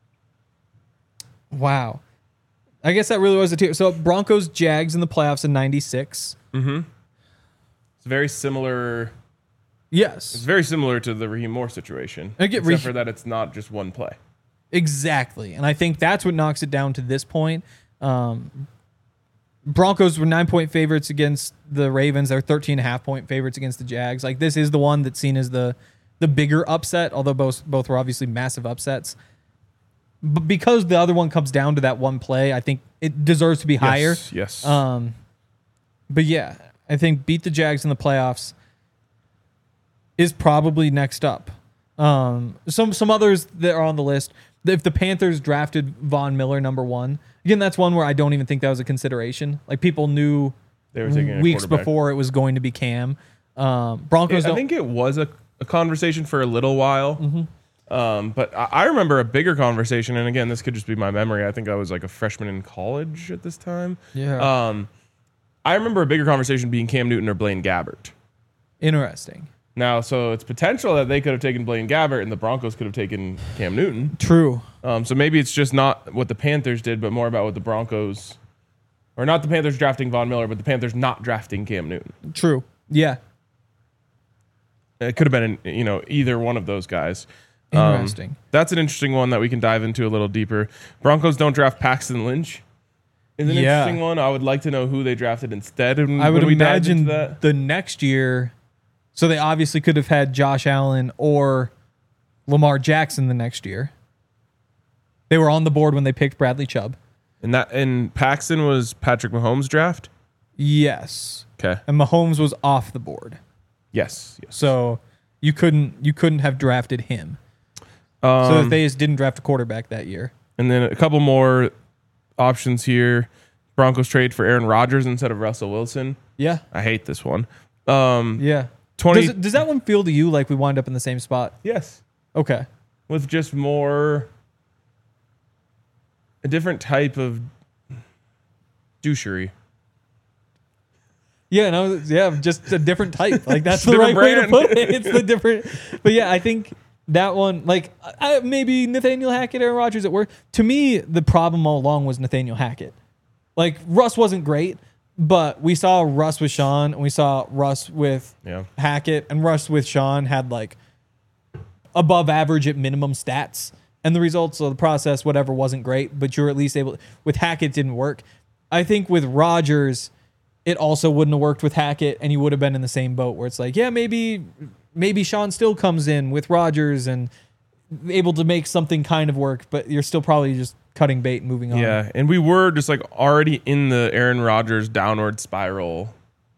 wow. I guess that really was the tier. So Broncos, Jags in the playoffs in ninety-six. It's very similar. Yes. It's very similar to the Raheem Moore situation, I get except Raheem- for that it's not just one play. Exactly. And I think that's what knocks it down to this point. Um, Broncos were nine point favorites against the Ravens. They're thirteen and a half point favorites against the Jags. Like, this is the one that's seen as the the bigger upset, although both both were obviously massive upsets. But because the other one comes down to that one play, I think it deserves to be higher. Yes. yes. Um, but yeah, I think beat the Jags in the playoffs is probably next up. Um, some some others that are on the list. If the Panthers drafted Von Miller number one, again, that's one where I don't even think that was a consideration. Like, people knew They were taking a weeks quarterback. before it was going to be Cam. Um, Broncos I don't. think it was a, a conversation for a little while. Mm-hmm. Um, but I, I remember a bigger conversation, and again, this could just be my memory. I think I was like a freshman in college at this time. Yeah. Um, I remember a bigger conversation being Cam Newton or Blaine Gabbert. Interesting. Now, so it's potential that they could have taken Blaine Gabbert and the Broncos could have taken Cam Newton. True. Um, so maybe it's just not what the Panthers did, but more about what the Broncos, or not the Panthers drafting Von Miller, but the Panthers not drafting Cam Newton. True. Yeah. It could have been, you know, either one of those guys. Interesting. Um, that's an interesting one that we can dive into a little deeper. Broncos don't draft Paxton Lynch. is an Yeah. interesting one. I would like to know who they drafted instead. And I would when we dived imagine into that. the next year. So they obviously could have had Josh Allen or Lamar Jackson the next year. They were on the board when they picked Bradley Chubb. And that and Paxton was Patrick Mahomes' draft. Yes. Okay. And Mahomes was off the board. Yes. yes. So you couldn't you couldn't have drafted him. Um, So they just didn't draft a quarterback that year. And then a couple more options here. Broncos trade for Aaron Rodgers instead of Russell Wilson. Yeah. I hate this one. Um, Yeah. twenty. Does, it, does that one feel to you like we wind up in the same spot? Yes. Okay. With just more, a different type of douchery. Yeah, no, yeah, just a different type. Like that's Just the right different way to brand. put it. It's the different, but yeah, I think that one, like I, maybe Nathaniel Hackett, Aaron Rodgers at work. To me, the problem all along was Nathaniel Hackett. Like Russ wasn't great, but we saw Russ with Sean, and we saw Russ with Yeah. Hackett, and Russ with Sean had like above average at minimum stats, and the results of the process, whatever, wasn't great, but you're at least able. With Hackett, it didn't work. I think with Rodgers, it also wouldn't have worked with Hackett, and you would have been in the same boat where it's like, yeah, maybe, maybe Sean still comes in with Rodgers and able to make something kind of work, but you're still probably just cutting bait and moving on. Yeah, and we were just like already in the Aaron Rodgers downward spiral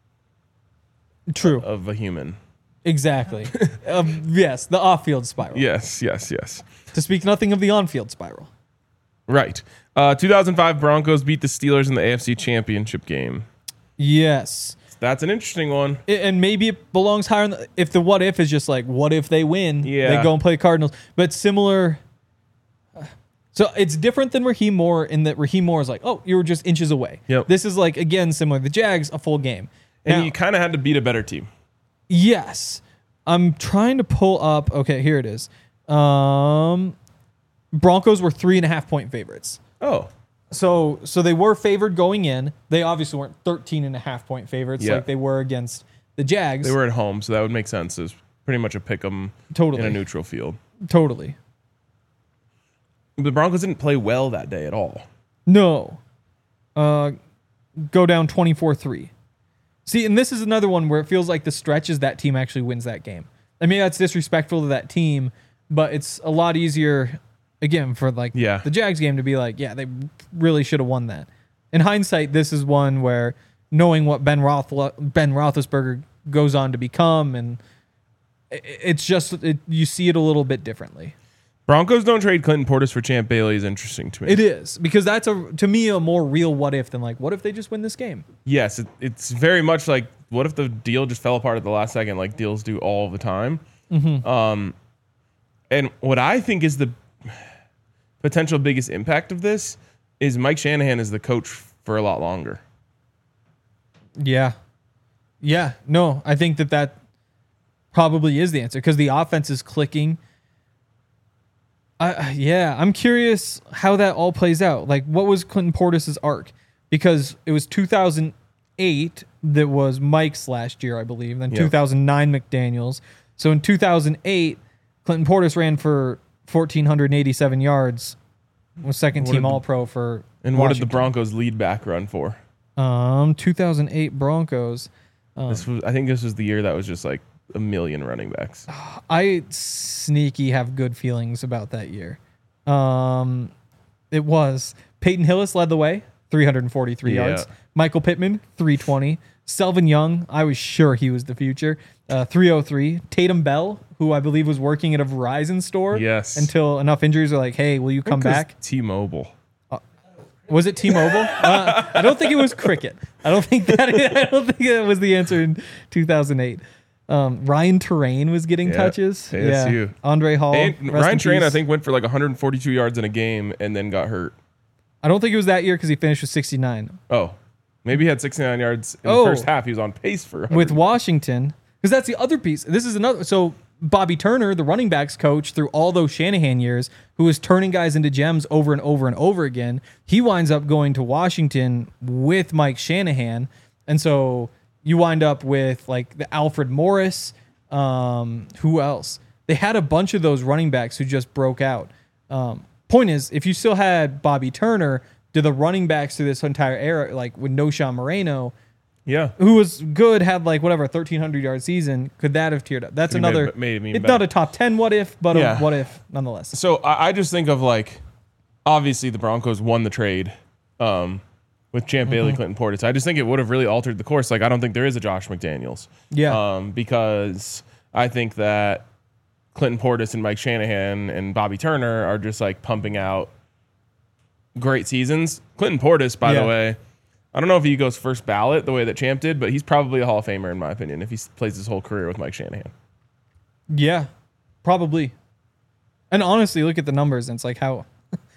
True. of a human. Exactly. um, yes, the off-field spiral. Yes, yes, yes. To speak nothing of the on-field spiral. Right. Uh, two thousand five Broncos beat the Steelers in the A F C Championship game. Yes. That's an interesting one. I- And maybe it belongs higher. In the, if the what if is just like, what if they win? Yeah. They go and play Cardinals. But similar. So it's different than Raheem Moore in that Raheem Moore is like, oh, you were just inches away. Yep. This is like, again, similar. The Jags, a full game. And Now- you kind of had to beat a better team. Yes. I'm trying to pull up. Okay, here it is. Um, Broncos were three and a half point favorites. Oh, So so they were favored going in. They obviously weren't thirteen and a half point favorites Yeah. like they were against the Jags. they were at home, so that would make sense. It's pretty much a pick 'em Totally. in a neutral field. Totally. The Broncos didn't play well that day at all. No. Uh, go down twenty-four three. See, and this is another one where it feels like the stretch is that team actually wins that game. I mean, that's disrespectful to that team, but it's a lot easier, again, for like Yeah. the Jags game to be like, yeah, they really should have won that. In hindsight, this is one where knowing what Ben Roth Ben Roethlisberger goes on to become, and i- it's just it, you see it a little bit differently. Broncos don't trade Clinton Portis for Champ Bailey is interesting to me. It is because that's a to me a more real what if than like what if they just win this game. Yes, it, it's very much like what if the deal just fell apart at the last second, like deals do all the time. Mm-hmm. Um, and what I think is the potential biggest impact of this is Mike Shanahan is the coach for a lot longer. Yeah. Yeah. No, I think that that probably is the answer because the offense is clicking. Uh, yeah, I'm curious how that all plays out. Like, what was Clinton Portis' arc? Because it was two thousand eight that was Mike's last year, I believe. Then Yep. two thousand nine McDaniels. So in two thousand eight, Clinton Portis ran for one thousand four hundred eighty-seven yards. Was second What team did the- All Pro for And what did the Washington. Broncos lead back run for? Um, two thousand eight Broncos. This was, I think this was the year that was just like a million running backs. I sneaky have good feelings about that year. Um, it was Peyton Hillis led the way, three hundred forty-three Yeah. yards. Michael Pittman, three twenty. Selvin Young, I was sure he was the future, uh, three oh three. Tatum Bell, who I believe was working at a Verizon store. Yes. Until enough injuries are like, hey, will you come back? T-Mobile. Was it T-Mobile? uh, I don't think it was Cricket. I don't think that. I don't think that was the answer in two thousand eight. Um, Ryan Terrain was getting Yeah, touches. A S U. Yeah. Andre Hall. And rest Ryan in Train, I peace. think, went for like one hundred forty-two yards in a game and then got hurt. I don't think it was that year because he finished with sixty-nine. Oh, maybe he had sixty-nine yards in Oh. the first half. He was on pace for one hundred. With Washington, because that's the other piece. This is another. So Bobby Turner, the running backs coach through all those Shanahan years, who was turning guys into gems over and over and over again, he winds up going to Washington with Mike Shanahan. And so you wind up with like the Alfred Morris. Um, who else? They had a bunch of those running backs who just broke out. Um, point is, if you still had Bobby Turner, do the running backs through this entire era, like with no Sean Moreno, Yeah. who was good, had like whatever thirteen hundred yard season, could that have tiered up? That's Could've made another. it- made it even it's better. not a top ten what if, but Yeah. a what if nonetheless. So I, I just think of like, obviously the Broncos won the trade um, with Champ Bailey, Mm-hmm. Clinton Portis. I just think it would have really altered the course. Like I don't think there is a Josh McDaniels. Yeah. Um, because I think that Clinton Portis and Mike Shanahan and Bobby Turner are just like pumping out great seasons. Clinton Portis, by Yeah. the way, I don't know if he goes first ballot the way that Champ did, but he's probably a Hall of Famer in my opinion if he s- plays his whole career with Mike Shanahan. Yeah, probably. And honestly, look at the numbers, and it's like how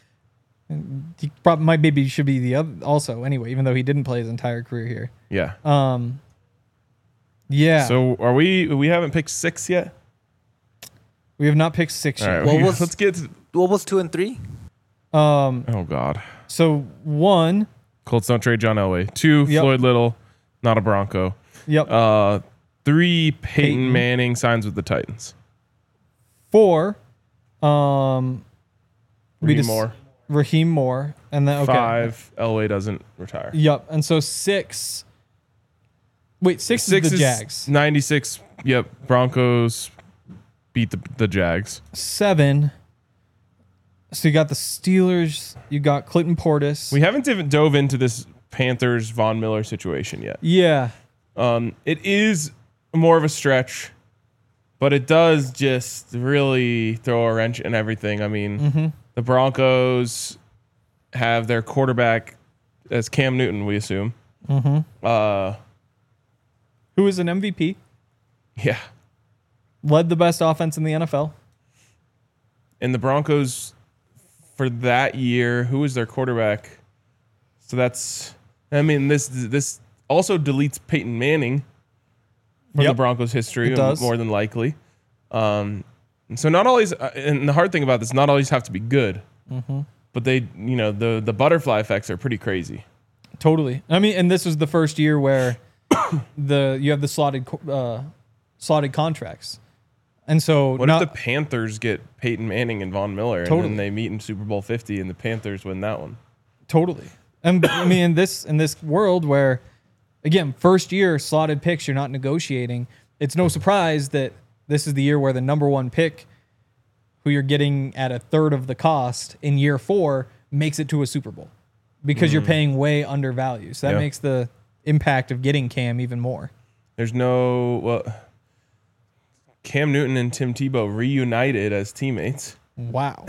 he probably might maybe should be the other also anyway, even though he didn't play his entire career here. Yeah. Um, yeah. So are we? We haven't picked six yet. we have not picked six All yet. right. What we- was- let's get. To, What was two and three? Um, oh God. so one, Colts don't trade John Elway. Two, Yep. Floyd Little, not a Bronco. yep. Uh, three, Peyton, Peyton. Manning signs with the Titans. Four, um, we Raheem just- Moore. Raheem Moore, and then okay. Five, Elway doesn't retire. Yep. And so six. Wait, six, Six is the is Jags. ninety-six. Yep, Broncos beat the the Jags. Seven. So you got the Steelers. You got Clinton Portis. We haven't even dove into this Panthers Von Miller situation yet. yeah. Um, it is more of a stretch, but it does just really throw a wrench in everything. I mean, Mm-hmm. the Broncos have their quarterback as Cam Newton, we assume. Mm-hmm. Uh, Who is an M V P? yeah. Led the best offense in the N F L. And the Broncos for that year, who was their quarterback? So that's, I mean, this this also deletes Peyton Manning from Yep. the Broncos history, It does. more than likely. Um, and so not always, uh, and the hard thing about this, not always have to be good, Mm-hmm. but they, you know, the the butterfly effects are pretty crazy. Totally. I mean, and this was the first year where the you have the slotted co- uh, slotted contracts, and so What not, if the Panthers get Peyton Manning and Von Miller, and Totally. then they meet in Super Bowl fifty, and the Panthers win that one? totally. And I mean, in this in this world where, again, first year slotted picks, you're not negotiating. It's no surprise that this is the year where the number one pick, who you're getting at a third of the cost in year four, makes it to a Super Bowl because you're paying way undervalued. So that Yeah. makes the impact of getting Cam even more. There's no, well, Cam Newton and Tim Tebow reunited as teammates. Wow.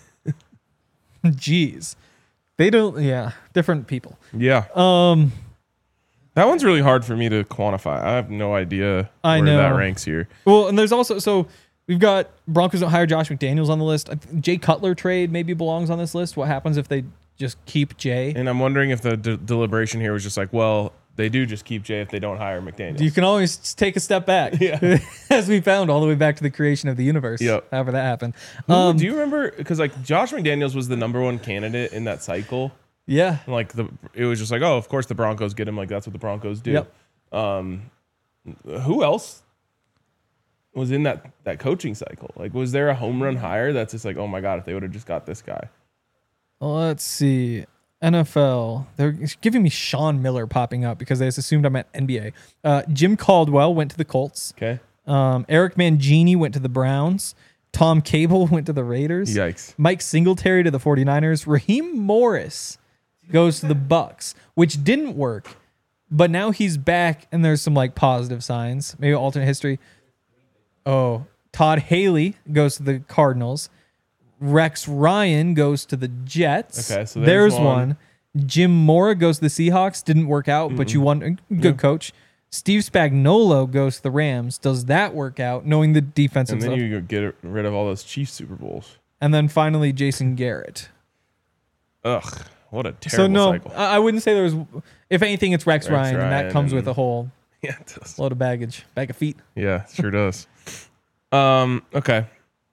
Jeez. They don't, yeah, different people. Yeah. Um, That one's really hard for me to quantify. I have no idea I where that know. ranks here. well, and there's also, so we've got Broncos don't hire Josh McDaniels on the list. I think Jay Cutler trade maybe belongs on this list. What happens if they just keep Jay? And I'm wondering if the de- deliberation here was just like, well, they do just keep Jay if they don't hire McDaniels. You can always just take a step back. Yeah. As we found all the way back to the creation of the universe. Yep. However that happened. Who- Um, do you remember? Because like Josh McDaniels was the number one candidate in that cycle. yeah. Like the, it was just like, oh, of course the Broncos get him. Like that's what the Broncos do. Yep. Um, who else was in that that coaching cycle? Like, was there a home run hire that's just like, oh my god, if they would have just got this guy? Let's see. N F L. They're giving me Sean Miller popping up because they just assumed I'm at N B A. Uh, Jim Caldwell went to the Colts. Okay. Um, Eric Mangini went to the Browns. Tom Cable went to the Raiders. Yikes. Mike Singletary to the 49ers. Raheem Morris goes to the Bucks, which didn't work, but now he's back and there's some like positive signs. Maybe alternate history. Oh, Todd Haley goes to the Cardinals. Rex Ryan goes to the Jets. Okay, so there's one. one. Jim Mora goes to the Seahawks. Didn't work out, but you won. Good Yeah. coach. Steve Spagnuolo goes to the Rams. Does that work out, knowing the defensive And then stuff? you get rid of all those Chiefs Super Bowls. And then finally, Jason Garrett. Ugh, what a terrible So no, cycle. I I wouldn't say there was. If anything, it's Rex, Rex Ryan, and that Ryan comes with and- a whole Yeah, it does. load of baggage, bag of feet. Yeah, sure does. Um, okay.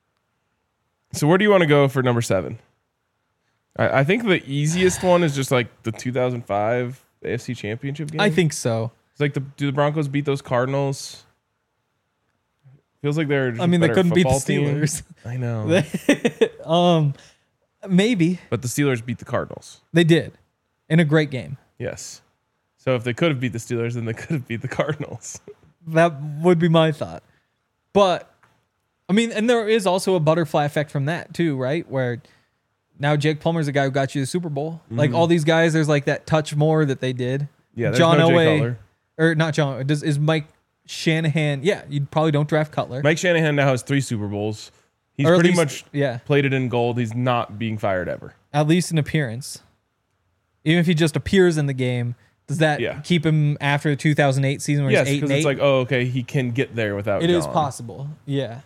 So where do you want to go for number seven? I, I think the easiest one is just like the two thousand five A F C Championship game. I think so. It's like the do the Broncos beat those Cardinals? Feels like they're. Just I mean, a they better couldn't beat the football team. Steelers. I know, um, maybe but the Steelers beat the Cardinals. they did. in a great game. Yes. So if they could have beat the Steelers, then they could have beat the Cardinals. That would be my thought. But, I mean, and there is also a butterfly effect from that too, right? Where now Jake Plummer's the guy who got you the Super Bowl. Mm-hmm. Like all these guys, there's like that touch more that they did. Yeah, there's John no Jay Elway, Cutler. or not John, does, is Mike Shanahan. Yeah, you probably don't draft Cutler. Mike Shanahan now has three Super Bowls. He's Or at pretty least- much yeah. played it in gold. He's not being fired ever. At least an appearance. Even if he just appears in the game, does that Yeah. keep him after the two thousand eight season where Yes, he's eight because and it's eight? like, oh, okay, he can get there without It is John. possible. Yeah.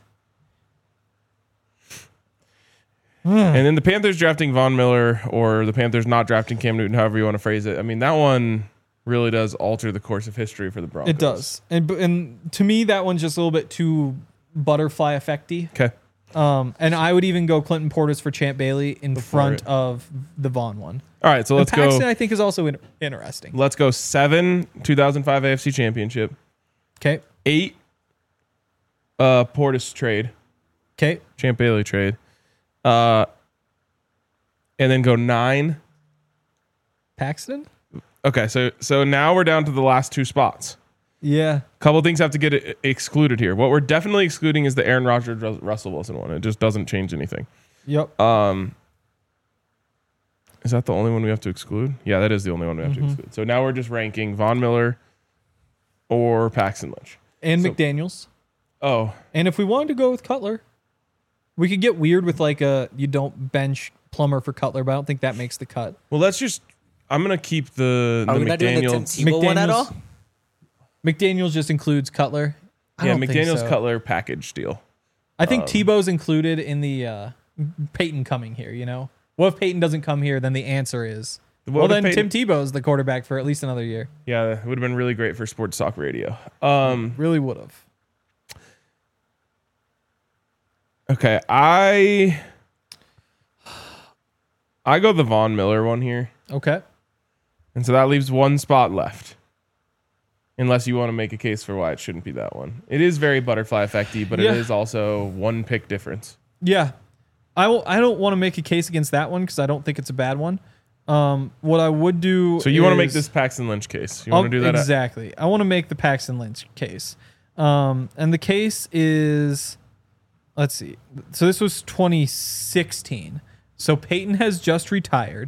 And then the Panthers drafting Von Miller, or the Panthers not drafting Cam Newton, however you want to phrase it. I mean, that one really does alter the course of history for the Broncos. It does. And and to me, that one's just a little bit too butterfly effecty. Okay. Um, and I would even go Clinton Portis for Champ Bailey in Before front it. of the Vaughn one. All right, so let's and Paxton, go. I think, is also in- interesting. Let's go seven two thousand five A F C Championship, Okay. eight uh, Portis trade, Okay. Champ Bailey trade, uh, and then go nine. Paxton? Okay, so so now we're down to the last two spots. Yeah. Couple things have to get e- excluded here. What we're definitely excluding is the Aaron Rodgers Rus- Russell Wilson one. It just doesn't change anything. Yep. Um, is that the only one we have to exclude? Yeah, that is the only one we have Mm-hmm. to exclude. So now we're just ranking Von Miller or Paxton Lynch. and so- McDaniels. Oh, And if we wanted to go with Cutler, we could get weird with like a you don't bench Plummer for Cutler, but I don't think that makes the cut. well, let's just. I'm gonna keep the, Are the we not doing the Tim McDaniels. Tebow one at all? McDaniels just includes Cutler. I Yeah, don't think McDaniels so. Cutler package deal. I think Um, Tebow's included in the uh, Peyton coming here. You know, what if Peyton doesn't come here? Then the answer is What well, if then Peyton- Tim Tebow's the quarterback for at least another year. Yeah, it would have been really great for sports talk radio. Um, Really would have. okay, I I go the Von Miller one here, Okay. and so that leaves one spot left. Unless you want to make a case for why it shouldn't be that one. It is very butterfly effecty, but Yeah. it is also one pick difference. Yeah, I will. I don't want to make a case against that one because I don't think it's a bad one. Um, what I would do. So you want to make is- this Paxton Lynch case? You I'll- want to do that? at- exactly. I want to make the Paxton Lynch case. Um, and the case is, let's see. So this was twenty sixteen. So Peyton has just retired.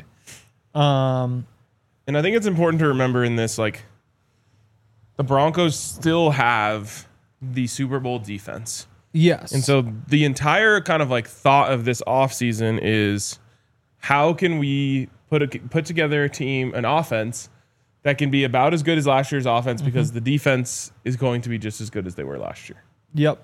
Um, And I think it's important to remember in this, like, the Broncos still have the Super Bowl defense. yes. And so the entire kind of like thought of this offseason is how can we put a, put together a team, an offense that can be about as good as last year's offense because the defense is going to be just as good as they were last year. Yep.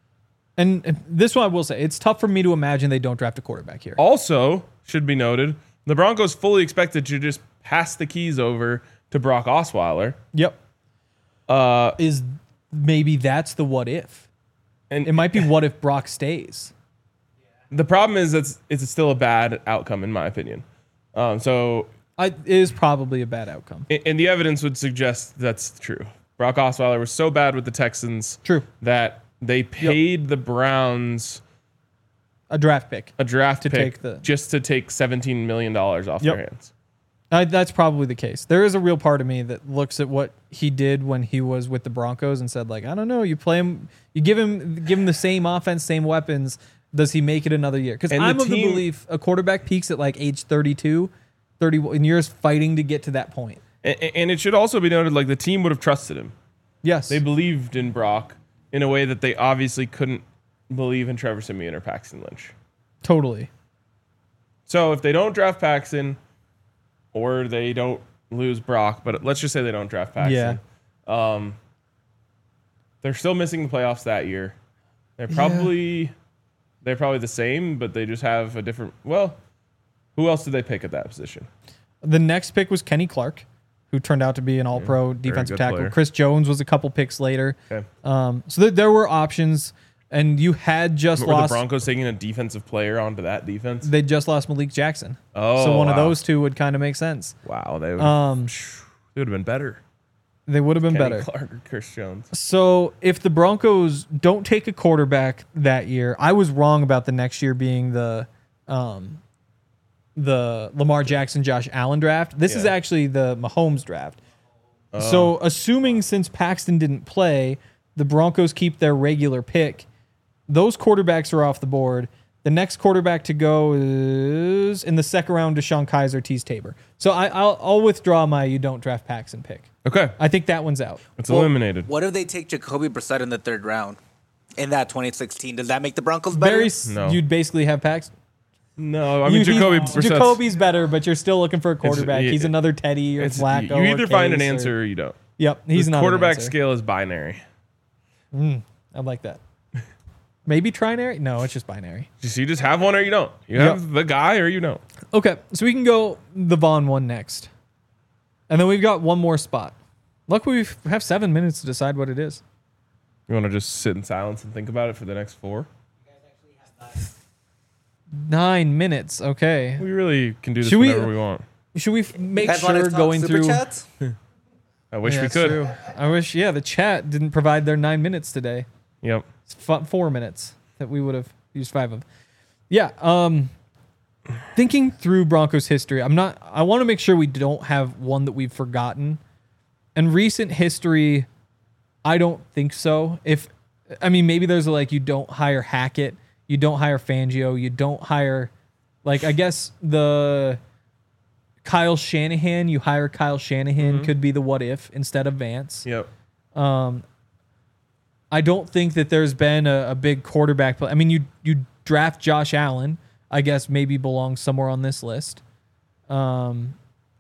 And and this one I will say, it's tough for me to imagine they don't draft a quarterback here. Also, should be noted, the Broncos fully expected to just pass the keys over to Brock Osweiler. Yep. Uh, Is maybe that's the what if. and It might be what if Brock stays. the problem is it's it's still a bad outcome in my opinion. Um, so I, it is probably a bad outcome. and and the evidence would suggest that's true. Brock Osweiler was so bad with the Texans True. that they paid the Browns A draft pick. a draft To pick take the- just to take seventeen million dollars off Yep. their hands. Uh, that's probably the case. There is a real part of me that looks at what he did when he was with the Broncos and said, like, I don't know, you play him, you give him, give him the same offense, same weapons. Does he make it another year? Because And the I'm of the team- belief a quarterback peaks at like age thirty-two, thirty-one, and you're just fighting to get to that point. And, and it should also be noted, like the team would have trusted him. Yes. They believed in Brock in a way that they obviously couldn't believe in Trevor Siemian or Paxton Lynch. totally. So if they don't draft Paxton, or they don't lose Brock, but let's just say they don't draft Paxton. Yeah. Um, they're still missing the playoffs that year. They're probably they're probably the same, but they just have a different. Well, who else did they pick at that position? The next pick was Kenny Clark, who turned out to be an all-pro defensive good tackle. player. Chris Jones was a couple picks later. Okay. Um, so th- there were options, and you had just Were the lost. Broncos taking a defensive player onto that defense? They just lost Malik Jackson. Oh, so one of wow. those two would kind of make sense. Wow, they would, Um, they would have been better. They would have been Kenny better. Clark or Chris Jones. So if the Broncos don't take a quarterback that year, I was wrong about the next year being the um, the Lamar Jackson, Josh Allen draft. This is Yeah. actually the Mahomes draft. So assuming since Paxton didn't play, the Broncos keep their regular pick. Those quarterbacks are off the board. The next quarterback to go is in the second round, Deshaun Kaiser, Tease Tabor. So I, I'll, I'll withdraw my you don't draft Paxton pick. Okay. I think that one's out. It's eliminated. What if they take Jacoby Brissett in the third round in that twenty sixteen? Does that make the Broncos better? Very, s- No. You'd basically have Paxton. No, I mean, You- Jacoby he's- Brissett's- Jacoby's better, but you're still looking for a quarterback. yeah, he's another Teddy or it's- Flacco. You either or find an Case or- answer or you don't. Yep, he's the not. quarterback an answer. scale is binary. I like that. Maybe trinary? No, it's just binary. Just you just have one or you don't. You Yep. have the guy or you don't. Okay, so we can go the Vaughn one next. And then we've got one more spot. Luckily, we have seven minutes to decide what it is. You want to just sit in silence and think about it for the next four? Nine minutes. Okay. We really can do this Should we- whenever we, want. Should we f- make Guys wanna sure talk going super through? chats? I wish Yeah, we it's could. true. I wish. Yeah, the chat didn't provide their nine minutes today. Yep. It's f- four minutes that we would have used five of. Yeah. Um, thinking through Broncos history, I'm not. I want to make sure we don't have one that we've forgotten. And recent history, I don't think so. If I mean, maybe there's a, like you don't hire Hackett, you don't hire Fangio, you don't hire, like I guess the Kyle Shanahan. You hire Kyle Shanahan could be the what if instead of Vance. Yep. I don't think that there's been a, a big quarterback play. I mean, you you draft Josh Allen, I guess maybe belongs somewhere on this list. Um,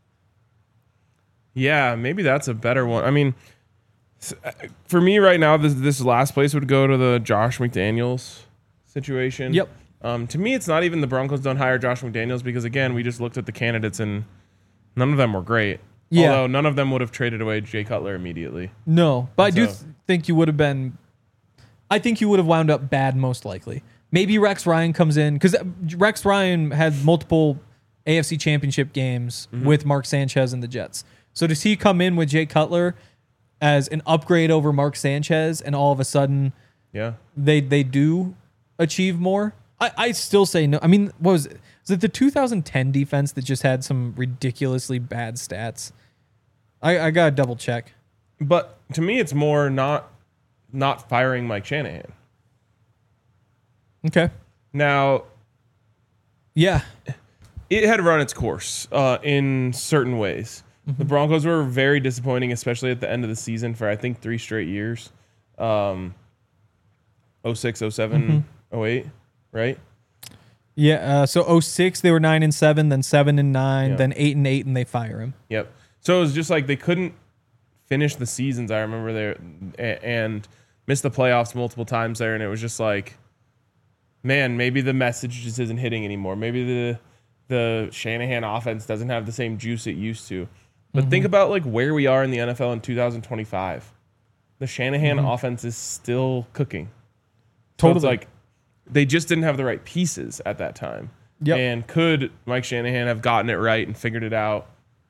Yeah, maybe that's a better one. I mean, s- for me right now, this this last place would go to the Josh McDaniels situation. Yep. Um, to me, it's not even the Broncos don't hire Josh McDaniels because again, we just looked at the candidates and none of them were great. Yeah. Although none of them would have traded away Jay Cutler immediately. no, but I do So- th- think you would have been. I think you would have wound up bad most likely. Maybe Rex Ryan comes in because Rex Ryan had multiple A F C Championship games with Mark Sanchez and the Jets. So does he come in with Jay Cutler as an upgrade over Mark Sanchez, and all of a sudden Yeah. they they do achieve more? I, I still say no. I mean, what was it? Was it the two thousand ten defense that just had some ridiculously bad stats? I, I gotta double check. But to me, it's more not not firing Mike Shanahan. Okay. Now, Yeah. it had run its course uh, in certain ways. The Broncos were very disappointing, especially at the end of the season for I think three straight years. Um, oh six, oh seven, oh eight, right? Yeah. Uh, so oh six they were nine and seven, then seven and nine, Yeah. then eight and eight, and they fire him. Yep. So it was just like they couldn't finish the seasons. I remember there a- and missed the playoffs multiple times there, and it was just like, man, maybe the message just isn't hitting anymore. Maybe the the Shanahan offense doesn't have the same juice it used to. But think about like where we are in the N F L in two thousand twenty-five. The Shanahan offense is still cooking. So Totally. it's like they just didn't have the right pieces at that time. Yep. And could Mike Shanahan have gotten it right and figured it out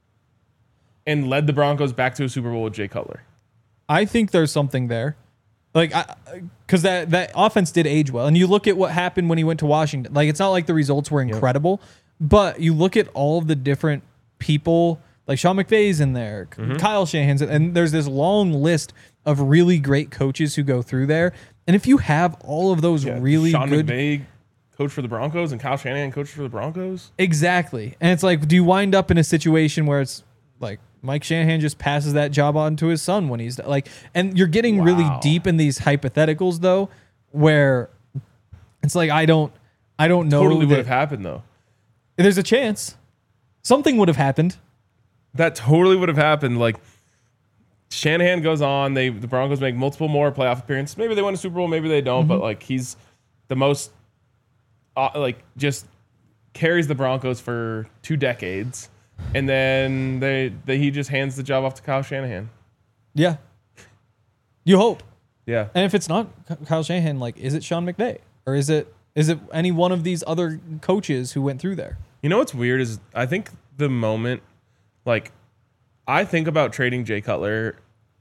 and led the Broncos back to a Super Bowl with Jay Cutler? I think there's something there. Like, because that, that offense did age well. And you look at what happened when he went to Washington. Like, it's not like the results were incredible, but you look at all of the different people, like Sean McVay's in there, Kyle Shanahan's, and there's this long list of really great coaches who go through there. And if you have all of those really Sean good. McVay coach for the Broncos and Kyle Shanahan coach for the Broncos. Exactly. And it's like, do you wind up in a situation where it's like Mike Shanahan just passes that job on to his son when he's like, and you're getting really Wow. deep in these hypotheticals though, where it's like, I don't, I don't know. Totally would that- have happened though. There's a chance something would have happened. That totally would have happened. Like Shanahan goes on, they the Broncos make multiple more playoff appearances. Maybe they win a Super Bowl, maybe they don't. But like he's the most, uh, like just carries the Broncos for two decades, and then they, they he just hands the job off to Kyle Shanahan. Yeah. You hope. Yeah, And if it's not Kyle Shanahan, like, is it Sean McVay or is it, is it any one of these other coaches who went through there? you know what's weird is I think the moment, like, I think about trading Jay Cutler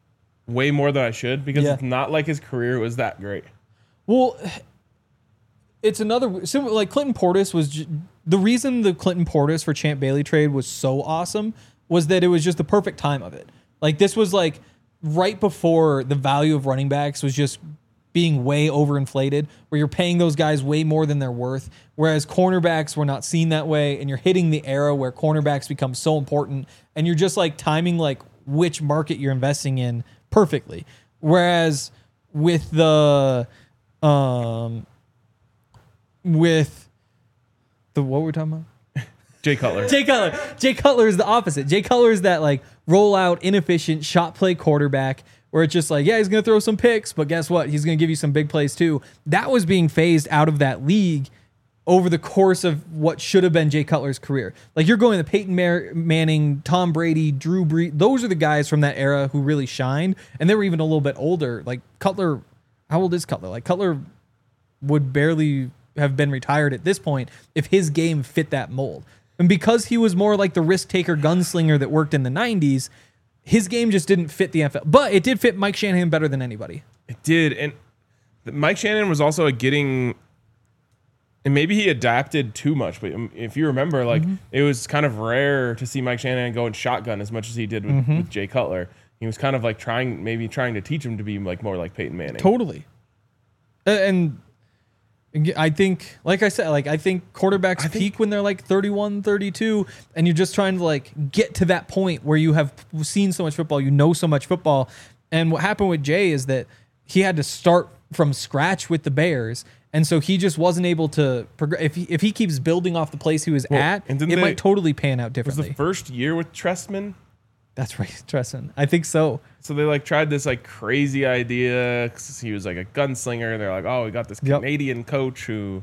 way more than I should because Yeah. it's not like his career was that great. Well, it's another so like Clinton Portis was j- the reason the Clinton Portis for Champ Bailey trade was so awesome was that it was just the perfect time of it. Like this was like right before the value of running backs was just being way overinflated, where you're paying those guys way more than they're worth, whereas cornerbacks were not seen that way, and you're hitting the era where cornerbacks become so important, and you're just like timing like which market you're investing in perfectly. Whereas with the um with the what we're talking about? Jay Cutler. Jay Cutler. Jay Cutler is the opposite. Jay Cutler is that like roll out, inefficient shot play quarterback where it's just like, yeah, he's going to throw some picks, but guess what? He's going to give you some big plays too. That was being phased out of that league over the course of what should have been Jay Cutler's career. Like you're going to Peyton Mar- Manning, Tom Brady, Drew Brees. Those are the guys from that era who really shined. And they were even a little bit older. Like Cutler, how old is Cutler? Like Cutler would barely have been retired at this point if his game fit that mold. And because he was more like the risk taker gunslinger that worked in the nineties, his game just didn't fit the N F L. But it did fit Mike Shanahan better than anybody. It did. And Mike Shanahan was also a getting, and maybe he adapted too much. But if you remember, like mm-hmm. it was kind of rare to see Mike Shanahan go and shotgun as much as he did with, mm-hmm. with Jay Cutler. He was kind of like trying, maybe trying to teach him to be like more like Peyton Manning. Totally. And I think, like I said, like I think quarterbacks I peak think, when they're like thirty-one, thirty-two, and you're just trying to like get to that point where you have seen so much football, you know so much football. And what happened with Jay is that he had to start from scratch with the Bears, and so he just wasn't able to progress. If he, if he keeps building off the place he was well, at, it they, might totally pan out differently. Was the first year with Trestman? That's right, Trestman. I think so. So they like tried this like crazy idea because he was like a gunslinger. They're like, oh, we got this Canadian yep. coach who.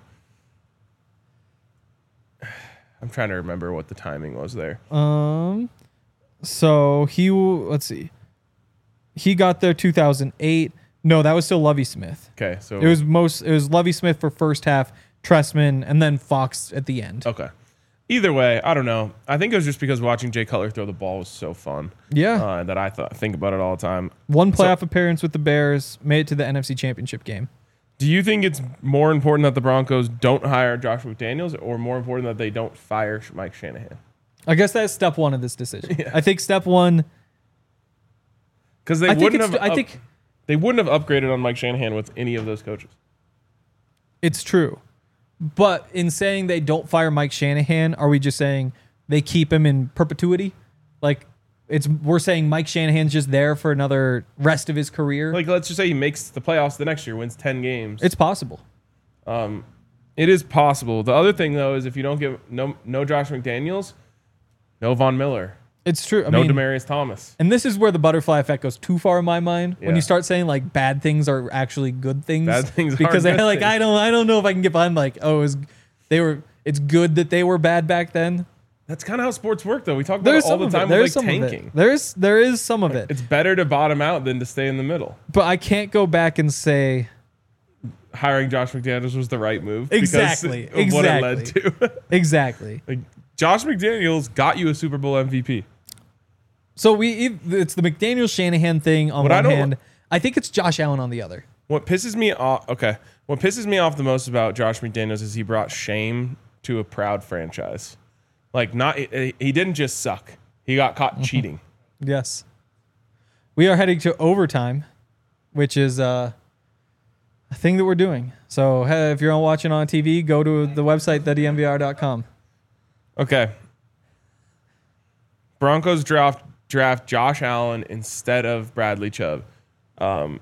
I'm trying to remember what the timing was there. Um, so he let's see, he got there two thousand eight. No, that was still Lovie Smith. Okay, so it was most it was Lovie Smith for first half, Trestman, and then Fox at the end. Okay. Either way, I don't know. I think it was just because watching Jay Cutler throw the ball was so fun. Yeah. Uh, that I thought think about it all the time. One playoff so, appearance with the Bears, made it to the N F C Championship game. Do you think it's more important that the Broncos don't hire Josh McDaniels or more important that they don't fire Mike Shanahan? I guess that's step one of this decision. Yeah. I think step one... Because they I wouldn't have... I up, think they wouldn't have upgraded on Mike Shanahan with any of those coaches. It's true. But in saying they don't fire Mike Shanahan, are we just saying they keep him in perpetuity? Like it's we're saying Mike Shanahan's just there for another rest of his career. Like let's just say he makes the playoffs the next year, wins ten games. It's possible. Um, it is possible. The other thing though is if you don't give no no Josh McDaniels, no Von Miller. It's true. I no mean, Demaryius Thomas. And this is where the butterfly effect goes too far in my mind. Yeah. When you start saying like bad things are actually good things. Bad things because are they're good like things. I don't I don't know if I can get behind like oh it was, they were it's good that they were bad back then. That's kind of how sports work though. We talk about There's it all the time with like tanking. There's there is some of it. It's better to bottom out than to stay in the middle. But I can't go back and say hiring Josh McDaniels was the right move. Exactly. Because of exactly. what it led to. Exactly. Like, Josh McDaniels got you a Super Bowl M V P. So we it's the McDaniel Shanahan thing on what one I hand. I think it's Josh Allen on the other. What pisses me off okay. What pisses me off the most about Josh McDaniels is he brought shame to a proud franchise. Like not he didn't just suck. He got caught mm-hmm. cheating. Yes. We are heading to overtime, which is uh, a thing that we're doing. So hey, if you're watching on T V, go to the website the D M V R dot com. Okay. Broncos draft draft Josh Allen instead of Bradley Chubb. Um,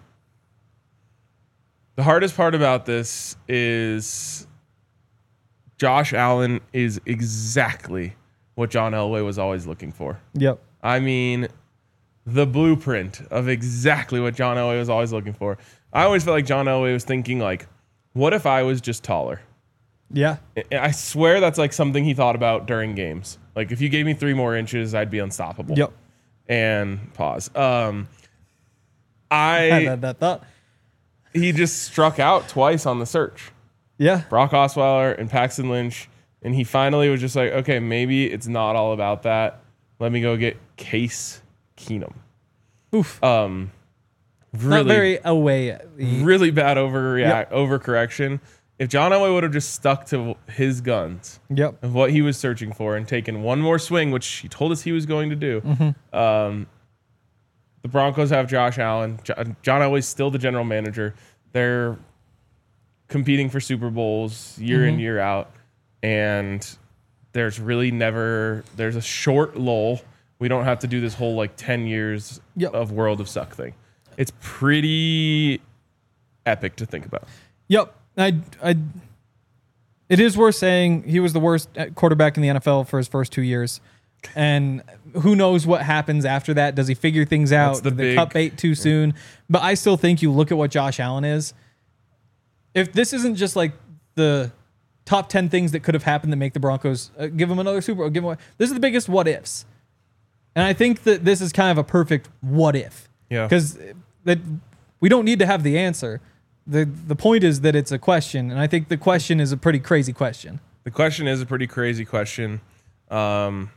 the hardest part about this is Josh Allen is exactly what John Elway was always looking for. Yep. I mean, the blueprint of exactly what John Elway was always looking for. I always felt like John Elway was thinking like, what if I was just taller? Yeah. I swear that's like something he thought about during games. Like if you gave me three more inches, I'd be unstoppable. Yep. And pause. Um, I had that thought. He just struck out twice on the search. Yeah. Brock Osweiler and Paxton Lynch. And he finally was just like, okay, maybe it's not all about that. Let me go get Case Keenum. Oof. Um, really, not very away. Really bad overreact, yep. overcorrection. if John Elway would have just stuck to his guns Yep. of what he was searching for and taken one more swing, which he told us he was going to do, Mm-hmm. um, the Broncos have Josh Allen. Jo- John Elway's still the general manager. They're competing for Super Bowls year in, year out. And there's really never, there's a short lull. We don't have to do this whole like ten years Yep. of World of Suck thing. It's pretty epic to think about. Yep. I, I, it is worth saying he was the worst quarterback in the N F L for his first two years. And who knows what happens after that? Does he figure things out? That's the Did they big- cut bait too soon? But I still think you look at what Josh Allen is. If this isn't just like the top ten things that could have happened that make the Broncos uh, give them another Super Bowl, give them, this is the biggest what ifs. And I think that this is kind of a perfect what if. Yeah. Because that we don't need to have the answer. The the point is that it's a question, and I think the question is a pretty crazy question. The question is a pretty crazy question. Um,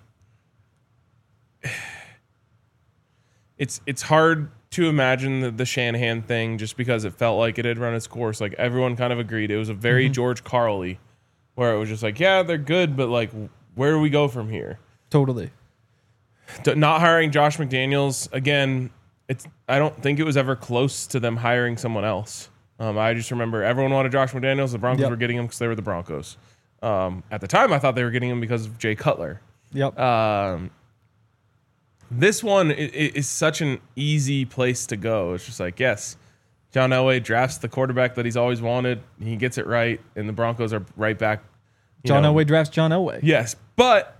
it's it's hard to imagine the, the Shanahan thing just because it felt like it had run its course. Like everyone kind of agreed. It was a very George Carly, where it was just like, yeah, they're good, but like, where do we go from here? Totally. D- Not hiring Josh McDaniels again. It's I don't think it was ever close to them hiring someone else. Um, I just remember everyone wanted Josh McDaniels. The Broncos Yep. were getting him because they were the Broncos. Um, at the time, I thought they were getting him because of Jay Cutler. Yep. Um, this one i- i- is such an easy place to go. It's just like, yes, John Elway drafts the quarterback that he's always wanted. He gets it right, and the Broncos are right back. you John know. Elway drafts John Elway. Yes, but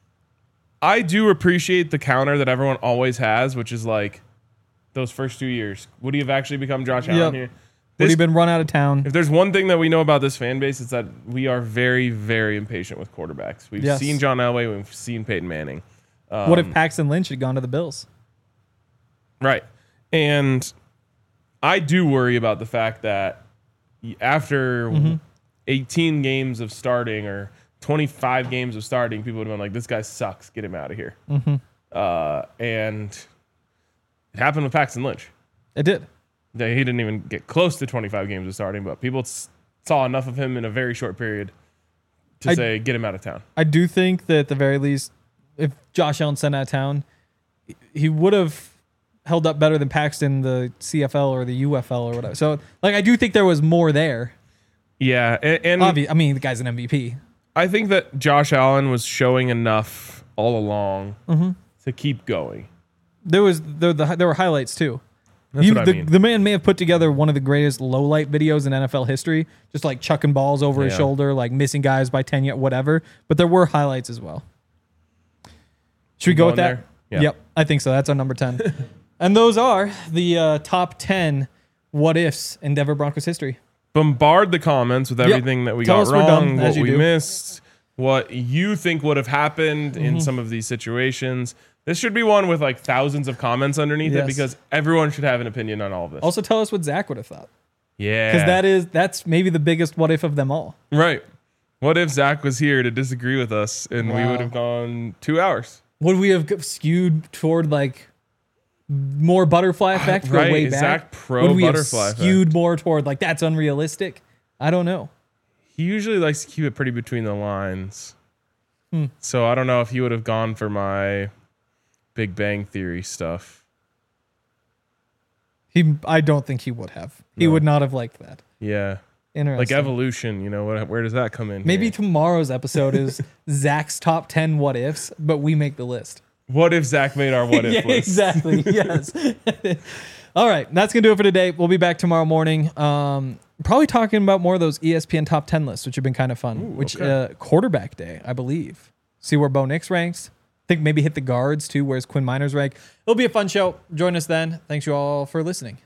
I do appreciate the counter that everyone always has, which is like those first two years. Would he have actually become Josh Allen Yep. here? Would he This- been run out of town? if there's one thing that we know about this fan base, it's that we are very, very impatient with quarterbacks. We've Yes. seen John Elway, we've seen Peyton Manning. Um, What if Paxton Lynch had gone to the Bills? Right. And I do worry about the fact that after Mm-hmm. eighteen games of starting or twenty-five games of starting, people would have been like, this guy sucks. Get him out of here. Mm-hmm. Uh, and it happened with Paxton Lynch. It did. He didn't even get close to twenty-five games of starting, but people s- saw enough of him in a very short period to I- say, get him out of town. I do think that at the very least, if Josh Allen sent out of town, he would have held up better than Paxton, the C F L or the U F L or whatever. So, like, I do think there was more there. Yeah. And, and Obvi- I mean, the guy's an M V P. I think that Josh Allen was showing enough all along Mm-hmm. to keep going. There was there, the, there were highlights too. That's He- what I the, mean. the man may have put together one of the greatest low light videos in N F L history, just like chucking balls over his Yeah. shoulder, like missing guys by ten yet whatever. But there were highlights as well. Should we go with Going that? there? Yeah. Yep, I think so. That's our number ten. And those are the uh, top ten what ifs in Denver Broncos history. Bombard the comments with everything that we Tell got us we're wrong, dumb, what as you we do. missed, what you think would have happened Mm-hmm. in some of these situations. This should be one with like thousands of comments underneath Yes. it because everyone should have an opinion on all of this. Also, tell us what Zach would have thought, yeah. because that is that's maybe the biggest what if of them all. Right. What if Zach was here to disagree with us and we Wow. would have gone two hours? Would we have skewed toward like more butterfly effect? Go Right, way is back. Zach pro Would we butterfly have skewed more toward like that's unrealistic? I don't know. He usually likes to keep it pretty between the lines. Hmm. So I don't know if he would have gone for my Big Bang Theory stuff. He, I don't think he would have. He No. would not have liked that. Yeah. Interesting. Like evolution, you know, what, where does that come in? Maybe here? tomorrow's episode is Zach's top ten what ifs, but we make the list. What if Zach made our what if yeah, list? exactly. Yes. All right, that's gonna do it for today. We'll be back tomorrow morning. Um, probably talking about more of those E S P N top ten lists, which have been kind of fun. Ooh, which okay. uh, quarterback day, I believe. See where Bo Nix ranks. I think maybe hit the guards too. Where's Quinn Miners rank? It'll be a fun show. Join us then. Thanks you all for listening.